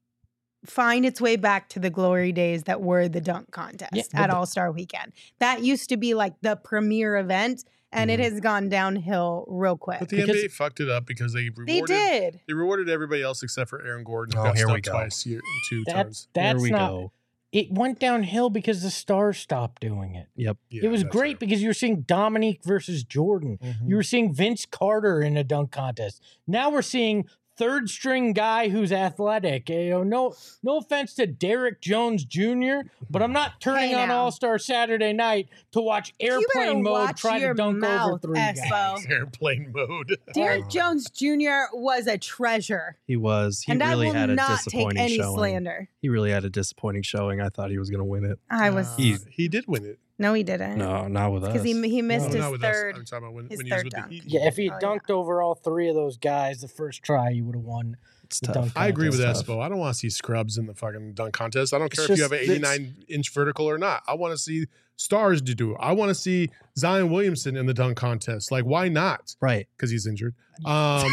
find its way back to the glory days that were the dunk contest Yeah, but at the- All-Star Weekend. That used to be like the premier event, and it Mhm. has gone downhill real quick. But the Because- N B A fucked it up because they rewarded They did. They rewarded everybody else except for Aaron Gordon. Who Oh, got here we stuck go. twice, year, two That, times. that's Here we not. go. It went downhill because the Stars stopped doing it. Yep. Yeah, it was that's great true. because you were seeing Dominique versus Jordan. Mhm. You were seeing Vince Carter in a dunk contest. Now we're seeing third string guy who's athletic. You know, no, no offense to Derek Jones Junior, but I'm not turning Hey on now. All Star Saturday night to watch You better airplane mode watch try your to dunk over mouth, three guys. Espo. Airplane mode. Derek Oh. Jones Junior was a treasure, He was. He and I really will had a not take disappointing any showing. slander. He really had a disappointing showing. I thought he was going to win it. I was Uh, He- he did win it. no, he didn't. No, not with us. because he he missed No, his not with us. third. I'm talking about when, his when he was third with dunk. the Heat. Yeah, if he had Oh, dunked over all three of those guys the first try, he would have won. It's the tough. dunk I agree with contest. Espo. I don't want to see scrubs in the fucking dunk contest. I don't It's care if you have just an eighty-nine inch vertical or not. I want to see stars to do it. I want to see Zion Williamson in the dunk contest. Like, why not? Right. Because he's injured. Um,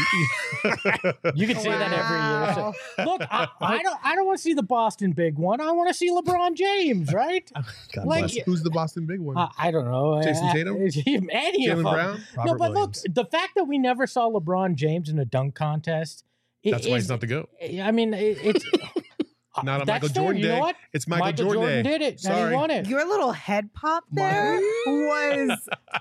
You can say that every year. Wow. So, look, I, I don't. I don't want to see the Boston big one. I want to see LeBron James, right? God Like- bless. Who's the Boston big one? Uh, I don't know. Jason Uh, Tatum? Any of Jalen them. Brown? No, Robert but Williams. look, the fact that we never saw LeBron James in a dunk contest. it That's why is- he's not the GOAT. I mean, it, it's Not on that's Michael fair. Jordan You Day. know what? It's Michael, Michael Jordan, Jordan Day. did it, and Sorry. he won it. Your little head pop there was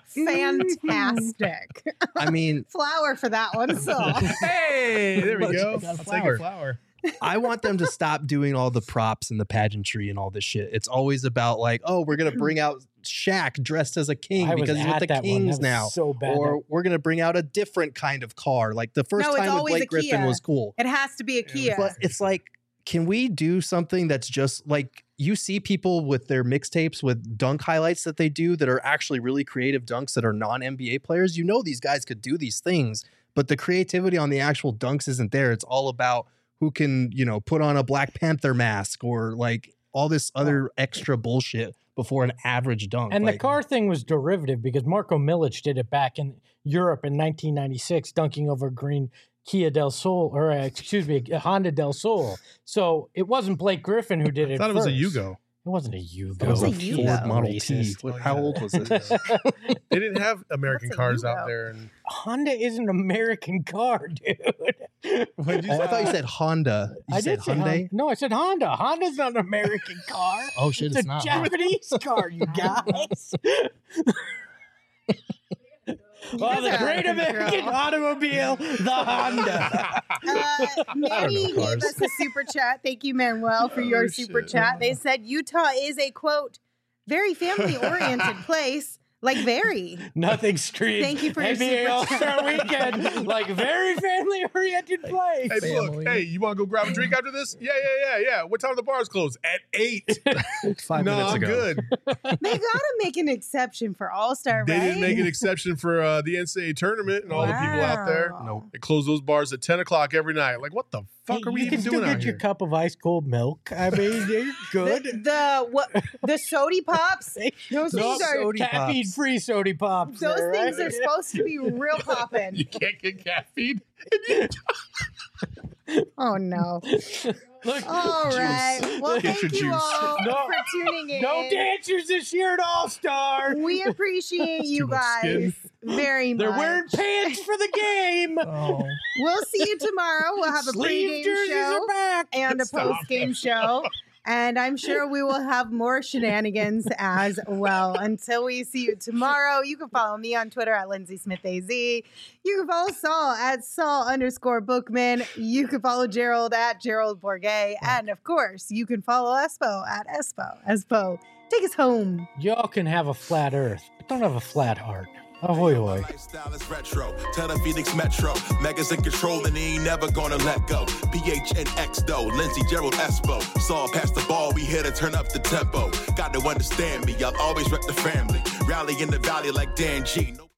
fantastic. I mean, Flower for that one. So Hey, there we Look, go. I got a I'll take flower. a flower. I want them to stop doing all the props and the pageantry and all this shit. It's always about like, oh, we're gonna bring out Shaq dressed as a king I was because he's with at the that one. That Kings was now. So bad. Or we're gonna bring out a different kind of car. Like the first No, it's time with always Blake a Griffin Kia. was cool. it has to be a Kia. But it's like can we do something that's just like you see people with their mixtapes with dunk highlights that they do that are actually really creative dunks that are non-N B A players? You know, these guys could do these things, but the creativity on the actual dunks isn't there. It's all about who can, you know, put on a Black Panther mask or like all this other extra bullshit before an average dunk. And like, the car thing was derivative because Marko Milic did it back in Europe in nineteen ninety-six, dunking over green Kia del Sol, or uh, excuse me, Honda del Sol. So it wasn't Blake Griffin who did it. I thought it was first. a Yugo. It wasn't a Yugo. it was a a Yugo? Ford Model T. Racist. What- How old was it? They didn't have American What's a cars Yugo? out there. And Honda is an American car, dude. What'd you Oh, I say? thought you said Honda. You I said did say Hyundai? Honda. No, I said Honda. Honda's not an American car. Oh shit, It's, it's, a not. Japanese car, you guys. Well, the guys are great out of American control. automobile, the Honda. Uh, Manny gave cars. us a super chat. Thank you, Manuel, for your Oh, super shit. chat. They said Utah is a, quote, very family-oriented place. Like, very. Nothing street. Thank you for your N B A super All-Star chat. Weekend, like very family-oriented place. Hey, look, Family. hey, you want to go grab a drink after this? Yeah, yeah, yeah, yeah. What time the bars close? At eight. Five no, minutes I'm ago. good. They got to make an exception for All-Star, They right? didn't make an exception for uh, the N C double A tournament and all the people out there. Wow. Nope. They close those bars at ten o'clock every night. Like, what the fuck Hey, are we you even can still doing get out your here? cup of ice cold milk. I mean, you're The, good. the what? The sody pops. Those No things are. sody pops. Caffeine-free soda pops. Those there, things right? are supposed to be real popping. You can't get caffeine. Oh no! Look, All right. Well, Get thank your you juice. all No. for tuning in. no dancers this year at All-Star. We appreciate you too much guys skin. very much. They're wearing pants for the game. Oh. We'll see you tomorrow. We'll have a Sleeve pregame jerseys show are back. and a Stop. postgame show. And I'm sure we will have more shenanigans as well. Until we see you tomorrow, you can follow me on Twitter at Lindsay Smith A Z. You can follow Saul at Saul underscore Bookman. You can follow Gerald at Gerald Bourget. And of course, you can follow Espo at Espo. Espo, take us home. Y'all can have a flat earth, but don't have a flat heart. Ahoy, hoy. Lifestyle is retro. Tell the Phoenix Metro. Megas in control and he ain't never gonna let go. P H N X though. Lindsey Gerald Espo. Saw past the ball. We here to turn up the tempo. Got to understand me. I'll always rep the family. Rally in the valley like Dan G. No-